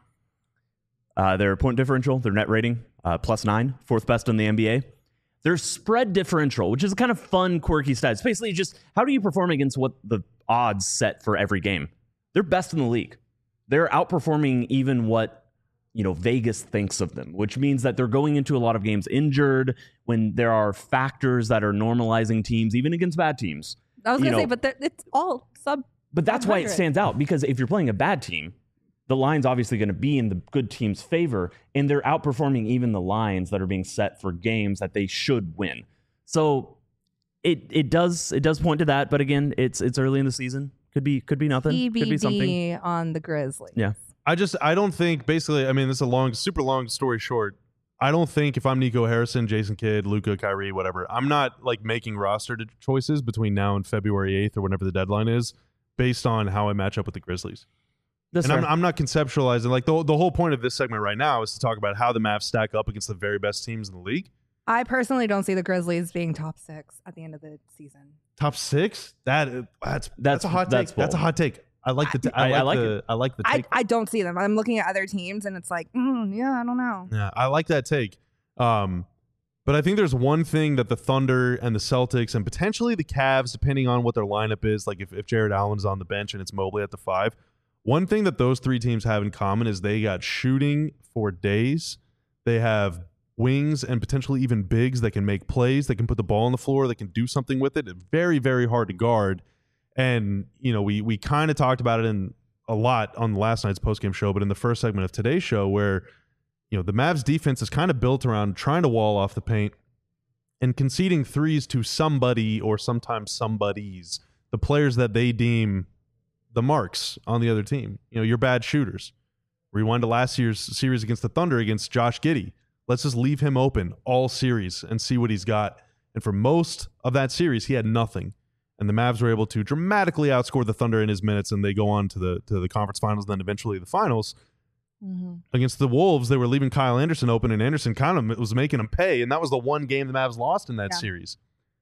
Uh, their point differential, their net rating, uh, plus nine, fourth best in the N B A. Their spread differential, which is a kind of fun, quirky stat. It's basically just how do you perform against what the odds set for every game. They're best in the league. They're outperforming even what, you know, Vegas thinks of them, which means that they're going into a lot of games injured when there are factors that are normalizing teams, even against bad teams. I was You gonna say, know- but they're- it's all sub. But that's why it one hundred. stands out, because if you're playing a bad team, the line's obviously going to be in the good team's favor, and they're outperforming even the lines that are being set for games that they should win. So it it does it does point to that, but again, it's it's early in the season. Could be could be nothing. Could be something. T B D on the Grizzlies. Yeah. I just I don't think basically I mean this is a long super long story short. I don't think if I'm Nico Harrison, Jason Kidd, Luka, Kyrie, whatever, I'm not like making roster to- choices between now and February eighth or whenever the deadline is based on how I match up with the Grizzlies. That's and I'm, fair. I'm not conceptualizing like the the whole point of this segment right now is to talk about how the Mavs stack up against the very best teams in the league. I personally don't see the Grizzlies being top six at the end of the season. Top six? That that's that's, That's- a hot that's take. That's a bold. hot take. I like the t- I, I- like I like the it. I like the I, take. I don't see them. I'm looking at other teams and it's like, mm, yeah, I don't know. Yeah, I like that take. Um, but I think there's one thing that the Thunder and the Celtics and potentially the Cavs, depending on what their lineup is, like if, if Jared Allen's on the bench and it's Mobley at the five, one thing that those three teams have in common is they got shooting for days. They have wings and potentially even bigs that can make plays, that can put the ball on the floor, that can do something with it. It's very, very hard to guard. And, you know, we we kind of talked about it in a lot on last night's postgame show, but in the first segment of today's show where, you know, the Mavs defense is kind of built around trying to wall off the paint and conceding threes to somebody or sometimes somebodies, the players that they deem the marks on the other team. You know, you're bad shooters. Rewind to last year's series against the Thunder against Josh Giddey. Let's just leave him open all series and see what he's got. And for most of that series, he had nothing. And the Mavs were able to dramatically outscore the Thunder in his minutes, and they go on to the to the conference finals, and then eventually the finals. Mm-hmm. Against the Wolves, they were leaving Kyle Anderson open, and Anderson kind of was making him pay, and that was the one game the Mavs lost in that Yeah. series.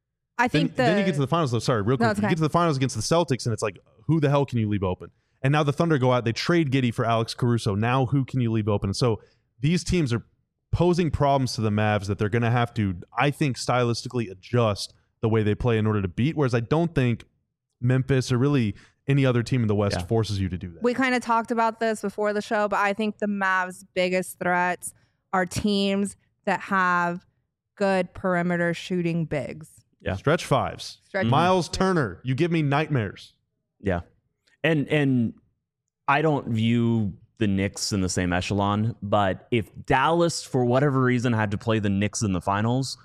I Then, think the, then you get to the finals, though. Sorry, real quick. No, it's You okay. get to the finals against the Celtics, and it's like, who the hell can you leave open? And now the Thunder go out, they trade Giddey for Alex Caruso. Now who can you leave open? And so these teams are posing problems to the Mavs that they're going to have to, I think, stylistically adjust the way they play in order to beat, whereas I don't think Memphis or really any other team in the West Yeah. forces you to do that. we kind of talked about this before the show, but I think the Mavs' biggest threats are teams that have good perimeter shooting bigs. Yeah. Stretch fives. Stretch Miles fives. Turner. You give me nightmares. Yeah. And and I don't view the Knicks in the same echelon, but if Dallas, for whatever reason, had to play the Knicks in the finals,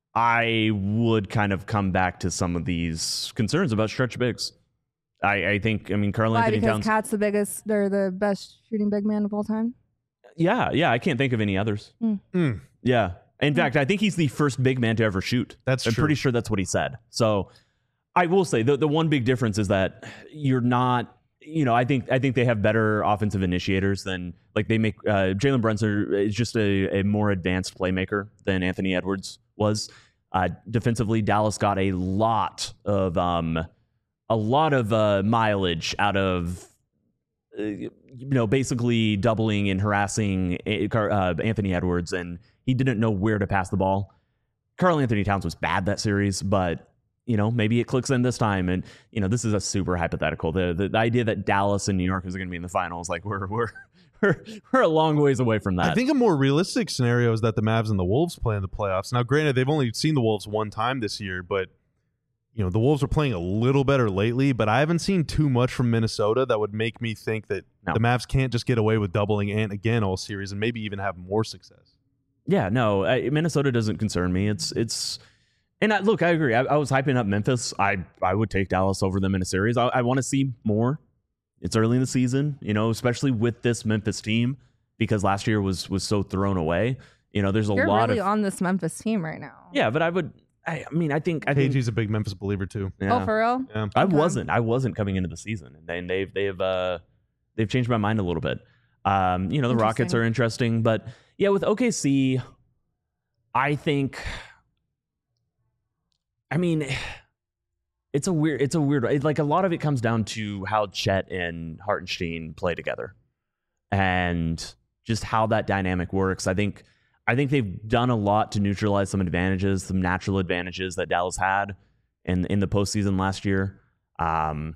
I would kind of come back to some of these concerns about stretch bigs. I, I think, I mean, Karl Why? Anthony Because Towns. Cat's the biggest, they're the best shooting big man of all time. Yeah, yeah, I can't think of any others. Mm. Yeah. In fact, I think he's the first big man to ever shoot. That's I'm true. pretty sure that's what he said. So I will say the, the one big difference is that you're not, you know, I think I think they have better offensive initiators than, like, they make uh, Jalen Brunson is just a, a more advanced playmaker than Anthony Edwards was. Uh, defensively, Dallas got a lot of um, a lot of uh, mileage out of uh, you know, basically doubling and harassing uh, Anthony Edwards, and he didn't know where to pass the ball. Karl Anthony Towns was bad that series, but you know, maybe it clicks in this time. And you know, this is a super hypothetical. The the, the idea that Dallas and New York is going to be in the finals, like we're we're we're we're a long ways away from that. I think a more realistic scenario is that the Mavs and the Wolves play in the playoffs. Now, granted, they've only seen the Wolves one time this year, but you know, the Wolves are playing a little better lately, but I haven't seen too much from Minnesota that would make me think that No. the Mavs can't just get away with doubling Ant again all series and maybe even have more success. Yeah, no, I, Minnesota doesn't concern me. It's it's, and I, look, I agree. I, I was hyping up Memphis. I I would take Dallas over them in a series. I, I want to see more. It's early in the season, you know, especially with this Memphis team, because last year was was so thrown away. You know, there's a You're lot really of on this Memphis team right now. yeah, but I would. I, I mean, I think I think K G's a big Memphis believer too. yeah. Oh, for real? Yeah. I Okay. wasn't. I wasn't coming into the season, and then they've they've uh, they've changed my mind a little bit. Um, you know, the Rockets Interesting. are interesting, but yeah, with O K C, I think. I mean, it's a weird. It's a weird. It, like a lot of it comes down to how Chet and Hartenstein play together, and just how that dynamic works. I think. I think they've done a lot to neutralize some advantages, some natural advantages that Dallas had in in the postseason last year. Um,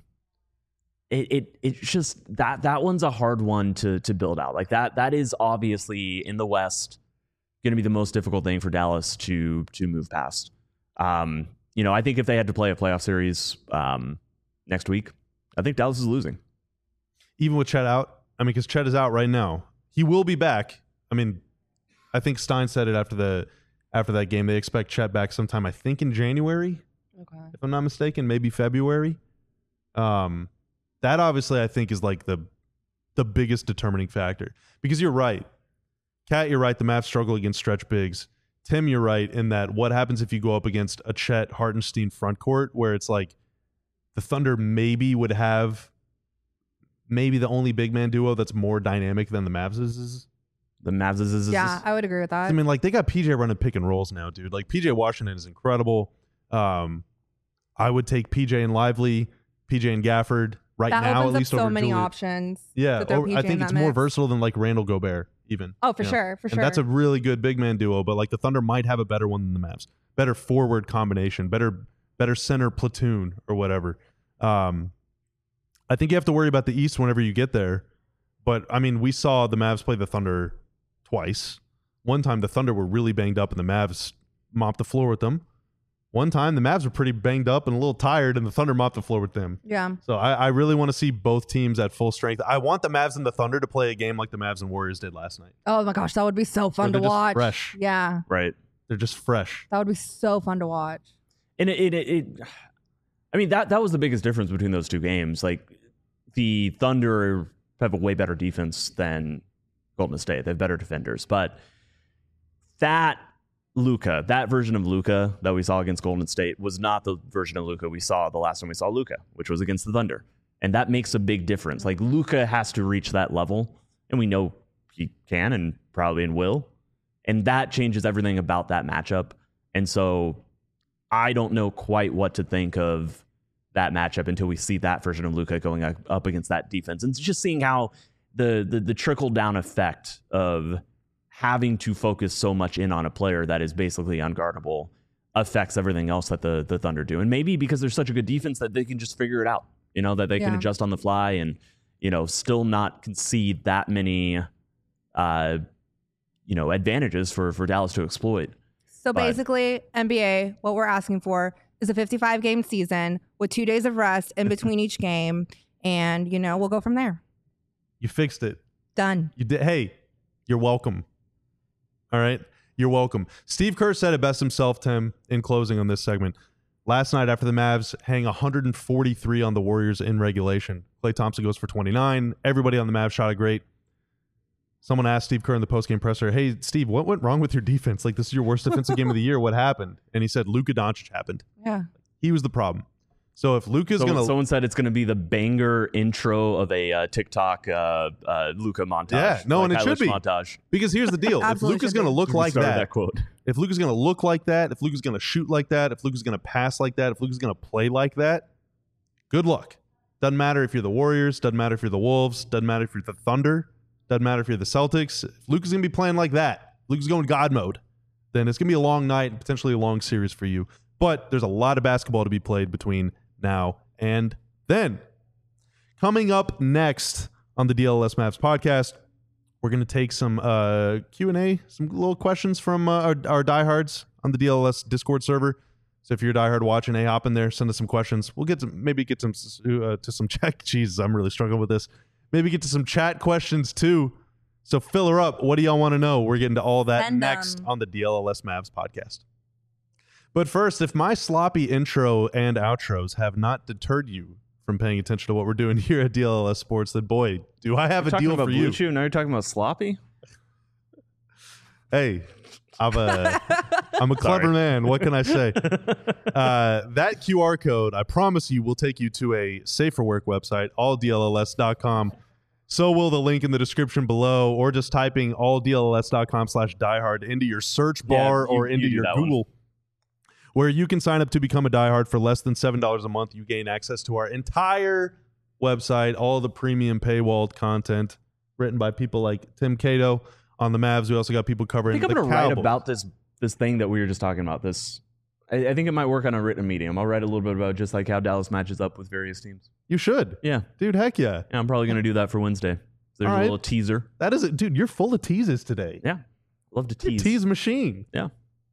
it it it's just that that one's a hard one to to build out. Like that that is obviously in the West going to be the most difficult thing for Dallas to to move past. Um, you know, I think if they had to play a playoff series um, next week, I think Dallas is losing. Even with Chet out, I mean, because Chet is out right now. He will be back. I mean, I think Stein said it after the after that game. They expect Chet back sometime, I think, in January, Okay. if I'm not mistaken, maybe February. Um, that obviously I think is like the the biggest determining factor, because you're right, Kat, you're right. The Mavs struggle against stretch bigs. Tim, you're right in that what happens if you go up against a Chet Hartenstein front court where it's like the Thunder maybe would have maybe the only big man duo that's more dynamic than the Mavs is. The Mavs is, is, is Yeah, I would agree with that. I mean, like, they got P J running pick and rolls now, dude. Like, P J Washington is incredible. Um, I would take P J and Lively, P J and Gafford right that now, opens at least up so over many Julius. options. Yeah, to throw over- I P J think in it's that more mix. versatile than like Randall Gobert, even. Oh, for you know? sure, for And sure. that's a really good big man duo, but like the Thunder might have a better one than the Mavs. Better forward combination, better better center platoon or whatever. Um, I think you have to worry about the East whenever you get there. But I mean, we saw the Mavs play the Thunder twice. One time the Thunder were really banged up and the Mavs mopped the floor with them. One time the Mavs were pretty banged up and a little tired and the Thunder mopped the floor with them. yeah. So I, I really want to see both teams at full strength. I want the Mavs and the Thunder to play a game like the Mavs and Warriors did last night. Oh my gosh, that would be so fun they're to just watch. fresh. Yeah, right. They're just fresh. that would be so fun to watch. And it, it, it, it, I mean, that that was the biggest difference between those two games. Like, the Thunder have a way better defense than Golden State. They have better defenders. But that Luka, that version of Luka that we saw against Golden State was not the version of Luka we saw the last time we saw Luka, which was against the Thunder. And that makes a big difference. Like, Luka has to reach that level, and we know he can and probably and will. And that changes everything about that matchup. And so I don't know quite what to think of that matchup until we see that version of Luka going up, up against that defense. And just seeing how the the, the trickle-down effect of having to focus so much in on a player that is basically unguardable affects everything else that the, the Thunder do. And maybe because they're such a good defense that they can just figure it out, you know, that they can Yeah. adjust on the fly and, you know, still not concede that many, uh, you know, advantages for, for Dallas to exploit. So But- basically, N B A, what we're asking for is a fifty-five game season with two days of rest in between each game. And, you know, we'll go from there. You fixed it. Done. You did. Hey, you're welcome. All right. You're welcome. Steve Kerr said it best himself, Tim, in closing on this segment. Last night after the Mavs hang one hundred forty-three on the Warriors in regulation, Klay Thompson goes for twenty-nine. Everybody on the Mavs shot it great. Someone asked Steve Kerr in the postgame presser, hey, Steve, what went wrong with your defense? Like, this is your worst defensive game of the year. What happened? And he said, Luka Doncic happened. Yeah. He was the problem. So if Luka's So, going to... someone said it's going to be the banger intro of a uh, TikTok uh, uh, Luka montage. Yeah, no, and it should Eilish be. montage. Because here's the deal. if Absolutely Luka's should going to be. look like Started that, that quote. if Luka's going to look like that, if Luka's going to shoot like that, if Luka's going to pass like that, if Luka's going to play like that, good luck. Doesn't matter if you're the Warriors, doesn't matter if you're the Wolves, doesn't matter if you're the Thunder, doesn't matter if you're the Celtics. If Luka's going to be playing like that, Luka's going God mode, then it's going to be a long night and potentially a long series for you. But there's a lot of basketball to be played between now and then. Coming up next on the D L S Mavs podcast, we're going to take some uh, Q and A, some little questions from uh, our, our diehards on the D L S Discord server. So if you're a diehard watching, hey, hop in there, send us some questions. We'll get to maybe get some uh, to some chat. Jesus, I'm really struggling with this. Maybe get to some chat questions too. So fill her up. What do y'all want to know? We're getting to all that Send next 'em. on the D L S Mavs podcast. But first, if my sloppy intro and outros have not deterred you from paying attention to what we're doing here at D L S Sports, then boy, do I have You're a talking deal about for Blue you. Chew, now you're talking about sloppy? Hey, I'm a I'm a clever Sorry. man. What can I say? Uh, that Q R code, I promise you, will take you to a safer work website, all D L L S dot com. So will the link in the description below, or just typing all D L L S dot com slash diehard into your search bar Yeah, you- or into you do your that one. Google, where you can sign up to become a diehard for less than seven dollars a month. You gain access to our entire website, all the premium paywalled content written by people like Tim Cato on the Mavs. We also got people I covering think I'm the going to write Cowboys. about this this thing that we were just talking about. This, I, I think it might work on a written medium. I'll write a little bit about just like how Dallas matches up with various teams. You should. Yeah, Dude, heck yeah. yeah I'm probably going to do that for Wednesday. So there's All a right. little teaser. That is it. Dude, you're full of teases today. Yeah, love to You're a tease. tease machine. Yeah.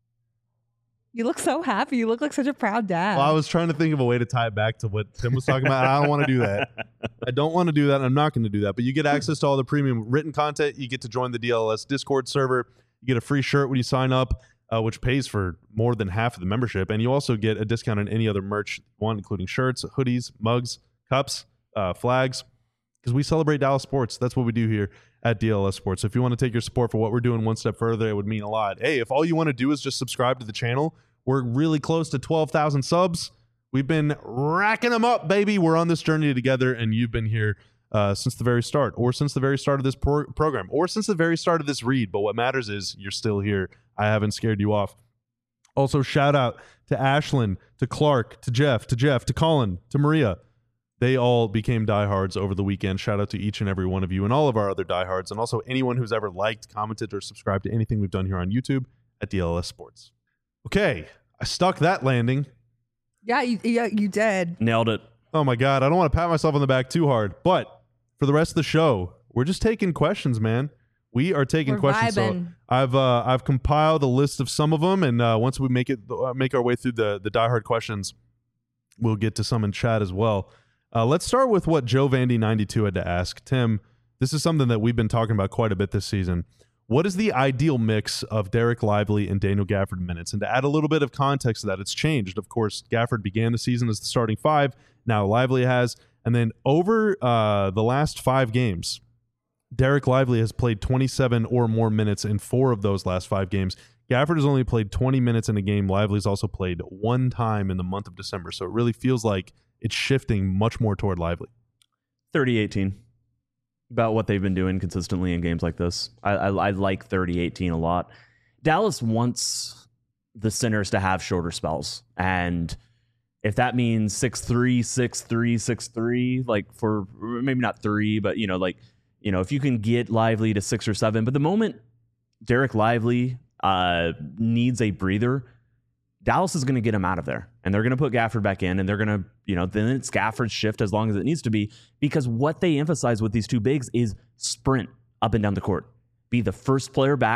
You look so happy. You look like such a proud dad. Well, I was trying to think of a way to tie it back to what Tim was talking about. And I don't want to do that. I don't want to do that. And I'm not going to do that. But you get access to all the premium written content. You get to join the D L S Discord server. You get a free shirt when you sign up, uh, which pays for more than half of the membership. And you also get a discount on any other merch you want, including shirts, hoodies, mugs, cups, uh, flags, because we celebrate Dallas sports. That's what we do here at D L S Sports. So if you want to take your support for what we're doing one step further, it would mean a lot. Hey, if all you want to do is just subscribe to the channel, we're really close to twelve thousand subs. We've been racking them up, baby. We're on this journey together, and you've been here uh, since the very start, or since the very start of this pro- program, or since the very start of this read. But what matters is you're still here. I haven't scared you off. Also, shout out to Ashlyn, to Clark, to Jeff, to Jeff, to Colin, to Maria. They all became diehards over the weekend. Shout out to each and every one of you and all of our other diehards, and also anyone who's ever liked, commented, or subscribed to anything we've done here on YouTube at D L S Sports. Okay, I stuck that landing. yeah, you, yeah, you did. Nailed it. Oh my God, I don't want to pat myself on the back too hard, but for the rest of the show, we're just taking questions, man. We are taking We're questions. So vibing. I've uh, I've compiled a list of some of them, and uh, once we make it uh, make our way through the the diehard questions, we'll get to some in chat as well. Uh, let's start with what Joe Vandy ninety-two had to ask. Tim, this is something that we've been talking about quite a bit this season. What is the ideal mix of Derek Lively and Daniel Gafford minutes? And to add a little bit of context to that, it's changed. Of course, Gafford began the season as the starting five. Now Lively has. And then over uh, the last five games, Derek Lively has played twenty-seven or more minutes in four of those last five games. Gafford has only played twenty minutes in a game. Lively's also played one time in the month of December. So it really feels like it's shifting much more toward Lively. thirty eighteen. About what they've been doing consistently in games like this. I, I, I like thirty eighteen a lot. Dallas wants the centers to have shorter spells. And if that means six three, six three, six three, like for maybe not three, but, you know, like, you know, if you can get Lively to six or seven. But the moment Derek Lively uh, needs a breather, Dallas is going to get him out of there, and they're going to put Gafford back in, and they're going to, you know, then it's Gafford's shift as long as it needs to be, because what they emphasize with these two bigs is sprint up and down the court. Be the first player back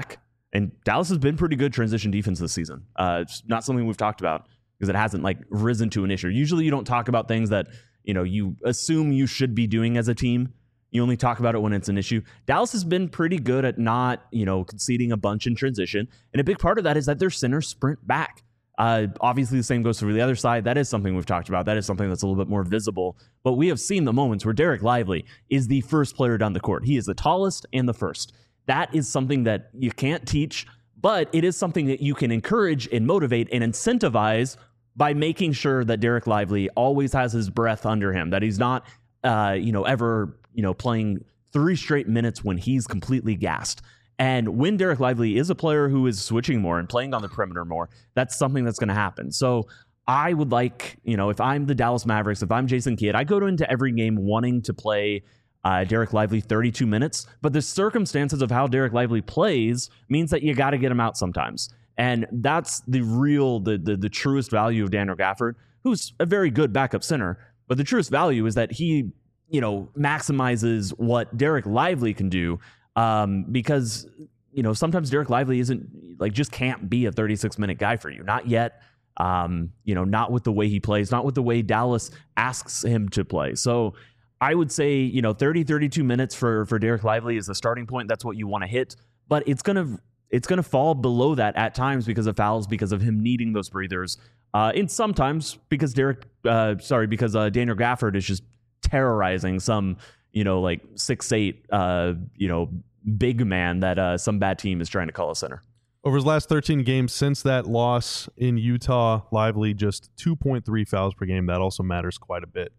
And Dallas has been pretty good transition defense this season. Uh, it's not something we've talked about because it hasn't like risen to an issue. Usually you don't talk about things that, you know, you assume you should be doing as a team. You only talk about it when it's an issue. Dallas has been pretty good at not, you know, conceding a bunch in transition. And a big part of that is that their centers sprint back. Uh, obviously, the same goes for the other side. That is something we've talked about. That is something that's a little bit more visible. But we have seen the moments where Derek Lively is the first player down the court. He is the tallest and the first. That is something that you can't teach, but it is something that you can encourage and motivate and incentivize by making sure that Derek Lively always has his breath under him, that he's not, uh, you know, ever, you know, playing three straight minutes when he's completely gassed. And when Derek Lively is a player who is switching more and playing on the perimeter more, that's something that's going to happen. So I would like, you know, if I'm the Dallas Mavericks, if I'm Jason Kidd, I go into every game wanting to play uh, Derek Lively thirty-two minutes. But the circumstances of how Derek Lively plays means that you got to get him out sometimes. And that's the real, the, the the truest value of Daniel Gafford, who's a very good backup center. But the truest value is that he, you know, maximizes what Derek Lively can do. Um, because, you know, sometimes Derek Lively isn't like just can't be a thirty-six minute guy for you. Not yet. Um, you know, not with the way he plays, not with the way Dallas asks him to play. So I would say, you know, thirty, thirty-two minutes for, for Derek Lively is the starting point. That's what you want to hit. But it's going to it's going to fall below that at times because of fouls, because of him needing those breathers. Uh, and sometimes because Derek, uh, sorry, because uh, Daniel Gafford is just terrorizing some, you know, like six eight, uh, you know, big man that uh, some bad team is trying to call a center. Over his last thirteen games since that loss in Utah, Lively just two point three fouls per game. That also matters quite a bit.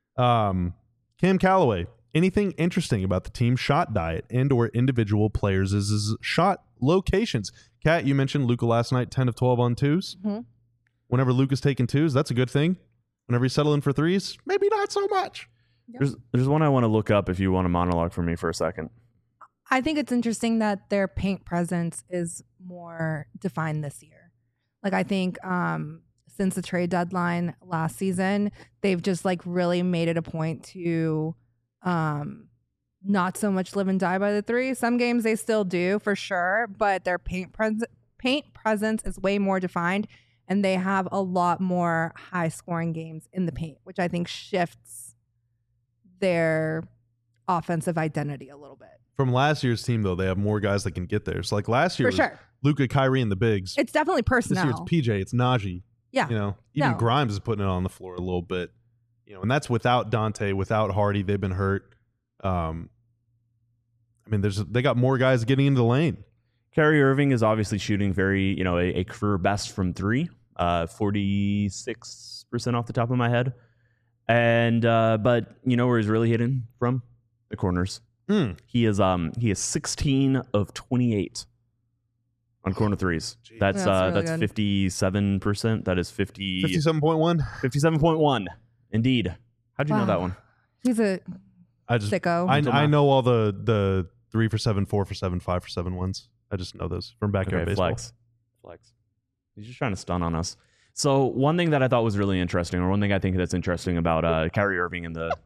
Um, Cam Calloway, anything interesting about the team's shot diet and or individual players' is shot locations? Kat, you mentioned Luka last night, ten of twelve on twos. Mm-hmm. Whenever Luka's taking twos, that's a good thing. Whenever he's settling for threes, maybe not so much. Yep. There's there's one I want to look up if you want to monologue for me for a second. I think it's interesting that their paint presence is more defined this year. Like, I think um, since the trade deadline last season, they've just like really made it a point to um, not so much live and die by the three. Some games they still do for sure, but their paint pres- paint presence is way more defined, and they have a lot more high scoring games in the paint, which I think shifts their offensive identity a little bit. From last year's team, though, they have more guys that can get there. So, like last year, For sure. Luka, Kyrie, and the bigs. It's definitely This personnel. year, it's P J, it's Najee. Yeah. You know, even No. Grimes is putting it on the floor a little bit. You know, and that's without Dante, without Hardy. They've been hurt. Um, I mean, there's they got more guys getting into the lane. Kyrie Irving is obviously shooting very, you know, a, a career best from three, uh, forty-six percent off the top of my head. And, uh, but you know where he's really hitting from? The corners. Mm. He is, um, he is sixteen of twenty-eight on corner threes. Jeez. That's, That's uh, really that's good. fifty-seven percent. That is fifty, fifty-seven point one. fifty-seven point one. Indeed. How'd you know Wow. that one? He's a I just sicko. I, Mental I math. know all the the three for seven, four for seven, five for seven ones. I just know those from backyard Okay, baseball. flex. Flex. He's just trying to stun on us. So one thing that I thought was really interesting, or one thing I think that's interesting about uh, Kyrie Irving and the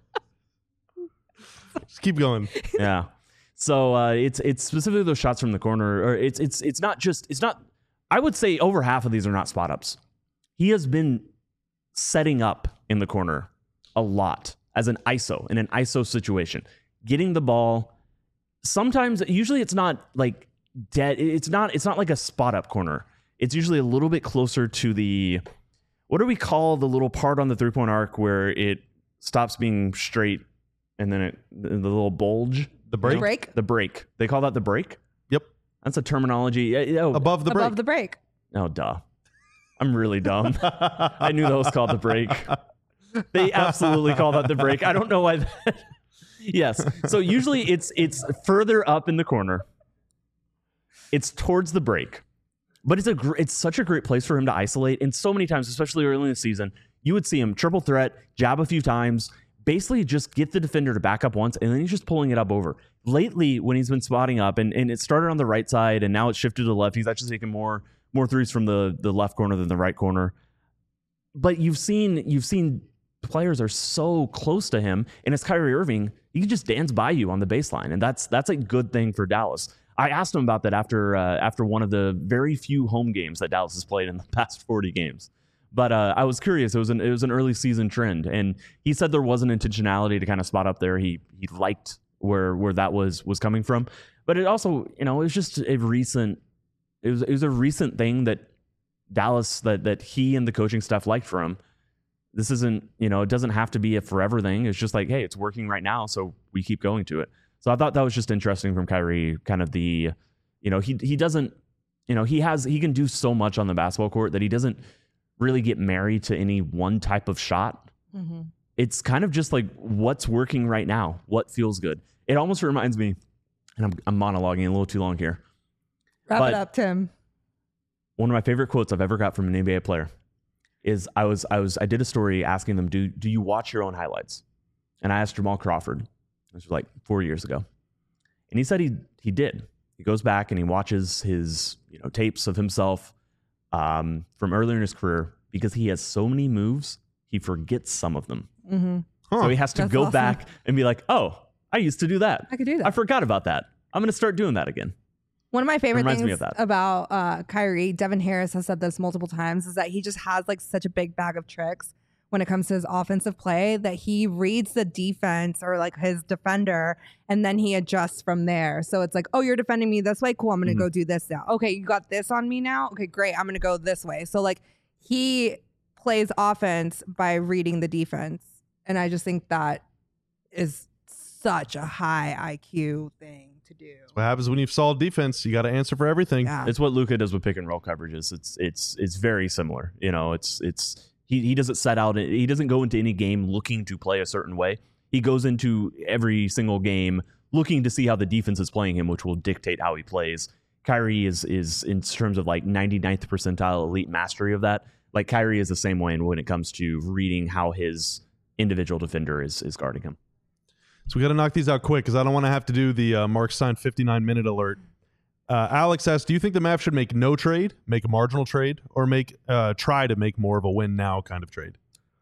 Just keep going. yeah. So uh, it's it's specifically those shots from the corner, or it's it's it's not just it's not. I would say over half of these are not spot ups. He has been setting up in the corner a lot as an I S O in an I S O situation, getting the ball. Sometimes, usually, it's not like dead. It's not. It's not like a spot up corner. It's usually a little bit closer to the. What do we call the little part on the three point arc where it stops being straight and then it the, the little bulge? The break? break The break. They call that the break? Yep. That's a terminology. Yeah, yeah, Oh, Above the break. above the break. oh, duh. I'm really dumb. I knew that was called the break. They absolutely call that the break. I don't know why. That... yes. So usually it's it's further up in the corner. It's towards the break. But it's a gr- it's such a great place for him to isolate. And so many times, especially early in the season, you would see him triple threat, jab a few times, basically just get the defender to back up once, and then he's just pulling it up over. Lately, when he's been spotting up, and, and it started on the right side, and now it's shifted to the left, he's actually taking more more threes from the, the left corner than the right corner. But you've seen you've seen players are so close to him, and it's Kyrie Irving. He can just dance by you on the baseline, and that's that's a good thing for Dallas. I asked him about that after uh, after one of the very few home games that Dallas has played in the past forty games. But uh, I was curious. It was an it was an early season trend, and he said there was an intentionality to kind of spot up there. He he liked where where that was was coming from, but it also, you know, it was just a recent it was it was a recent thing that Dallas that that he and the coaching staff liked from him. This isn't, you know, it doesn't have to be a forever thing. It's just like, hey, it's working right now, so we keep going to it. So I thought that was just interesting from Kyrie, kind of the, you know, he he doesn't, you know, he has he can do so much on the basketball court that he doesn't really get married to any one type of shot. Mm-hmm. It's kind of just like what's working right now, what feels good. It almost reminds me, and I'm, I'm monologuing a little too long here. Wrap but it up, Tim. One of my favorite quotes I've ever got from an N B A player is I was I was I did a story asking them, do do you watch your own highlights? And I asked Jamal Crawford. This was like four years ago, and he said he he did. He goes back and he watches his you know tapes of himself um, from earlier in his career because he has so many moves he forgets some of them. Mm-hmm. Huh. So he has to That's go awesome. back and be like, oh, I used to do that. I could do that. I forgot about that. I'm going to start doing that again. One of my favorite Reminds me things of that. about uh, Kyrie, Devin Harris has said this multiple times, is that he just has like such a big bag of tricks when it comes to his offensive play that he reads the defense or like his defender and then he adjusts from there. So it's like, oh, you're defending me this way. Cool. I'm going to Mm-hmm. go do this now. Okay. You got this on me now. Okay, great. I'm going to go this way. So like he plays offense by reading the defense. And I just think that is such a high I Q thing to do. What happens when you've solved defense? You got to answer for everything. Yeah. It's what Luka does with pick and roll coverages. It's it's it's very similar. You know, it's it's he he doesn't set out. He doesn't go into any game looking to play a certain way. He goes into every single game looking to see how the defense is playing him, which will dictate how he plays. Kyrie is is in terms of like ninety-ninth percentile elite mastery of that. Like Kyrie is the same way when it comes to reading how his individual defender is is guarding him. So we got to knock these out quick because I don't want to have to do the uh, Mark Stein fifty-nine minute alert. Uh, Alex asks, do you think the Mavs should make no trade, make a marginal trade, or make uh, try to make more of a win now kind of trade?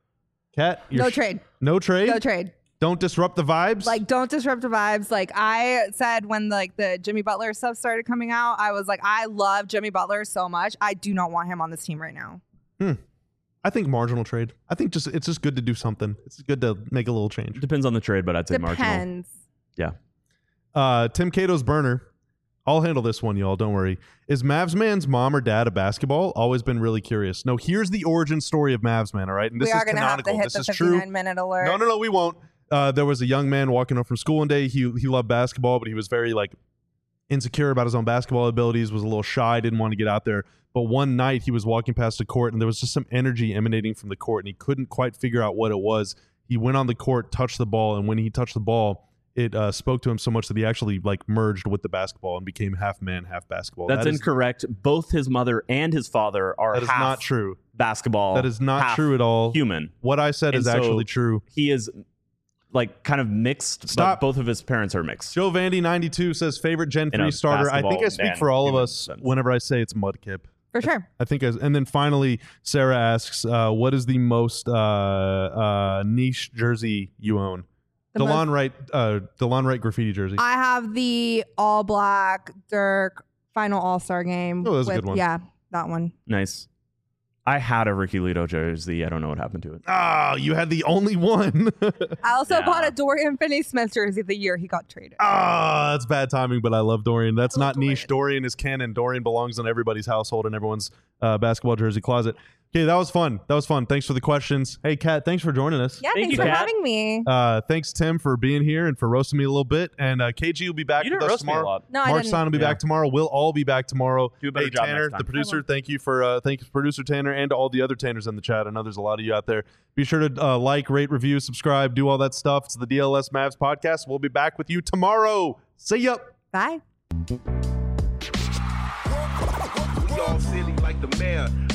Kat, No sh- trade. No trade. No trade. Don't disrupt the vibes. Like, don't disrupt the vibes. Like I said when like the Jimmy Butler stuff started coming out, I was like, I love Jimmy Butler so much. I do not want him on this team right now. Hmm. I think marginal trade. I think just it's just good to do something. It's good to make a little change. Depends on the trade, but I'd say marginal. Depends. Yeah. Uh, Tim Cato's burner. I'll handle this one, y'all. Don't worry. Is Mavs Man's mom or dad a basketball? Always been really curious. No, here's the origin story of Mavs Man, all right? And this We are is going to have to canonical. hit This the is true. fifty-nine minute alert. No, no, no, we won't. Uh, there was a young man walking home from school one day. He he loved basketball, but he was very like insecure about his own basketball abilities, was a little shy, didn't want to get out there. But one night he was walking past the court and there was just some energy emanating from the court and he couldn't quite figure out what it was. He went on the court, touched the ball, and when he touched the ball, it uh, spoke to him so much that he actually like merged with the basketball and became half man, half basketball. That's That is- incorrect. Both his mother and his father are That is half not true. basketball. That is not half true at all. Human. What I said And is so- actually true. He is like kind of mixed. Stop. But both of his parents are mixed. Joe Vandy ninety-two says favorite Gen In three a starter. I think I basketball speak and for all of human us sense. whenever I say it's Mudkip. For sure. I think, as, and then finally, Sarah asks, uh, "What is the most uh, uh, niche jersey you own?" The Delon most- Wright, uh, Delon Wright graffiti jersey. I have the all black Dirk final All Star game. Oh, that's a with, good one. Yeah, that one. Nice. I had a Ricky Lito jersey. I don't know what happened to it. Oh, you had the only one. I also Yeah. bought a Dorian Finney-Smith jersey the year he got traded. Ah, that's bad timing, but I love Dorian. That's not niche. Dorian is canon. Dorian belongs in everybody's household and everyone's uh, basketball jersey closet. Okay, that was fun. That was fun. Thanks for the questions. Hey, Kat, thanks for joining us. Yeah, Thank thanks you, for Kat. having me. Uh, thanks, Tim, for being here and for roasting me a little bit. And uh, K G will be back You with didn't us roast me a tomorrow. lot. No, I Mark didn't. Stein will be Yeah. back tomorrow. We'll all be back tomorrow. Do a better hey, job Tanner, next time. the producer, I will. thank you for uh, thank you, producer Tanner, and to all the other Tanners in the chat. I know there's a lot of you out there. Be sure to uh, like, rate, review, subscribe, do all that stuff. It's the D L S Mavs podcast. We'll be back with you tomorrow. See ya. Bye. We all silly like the mayor.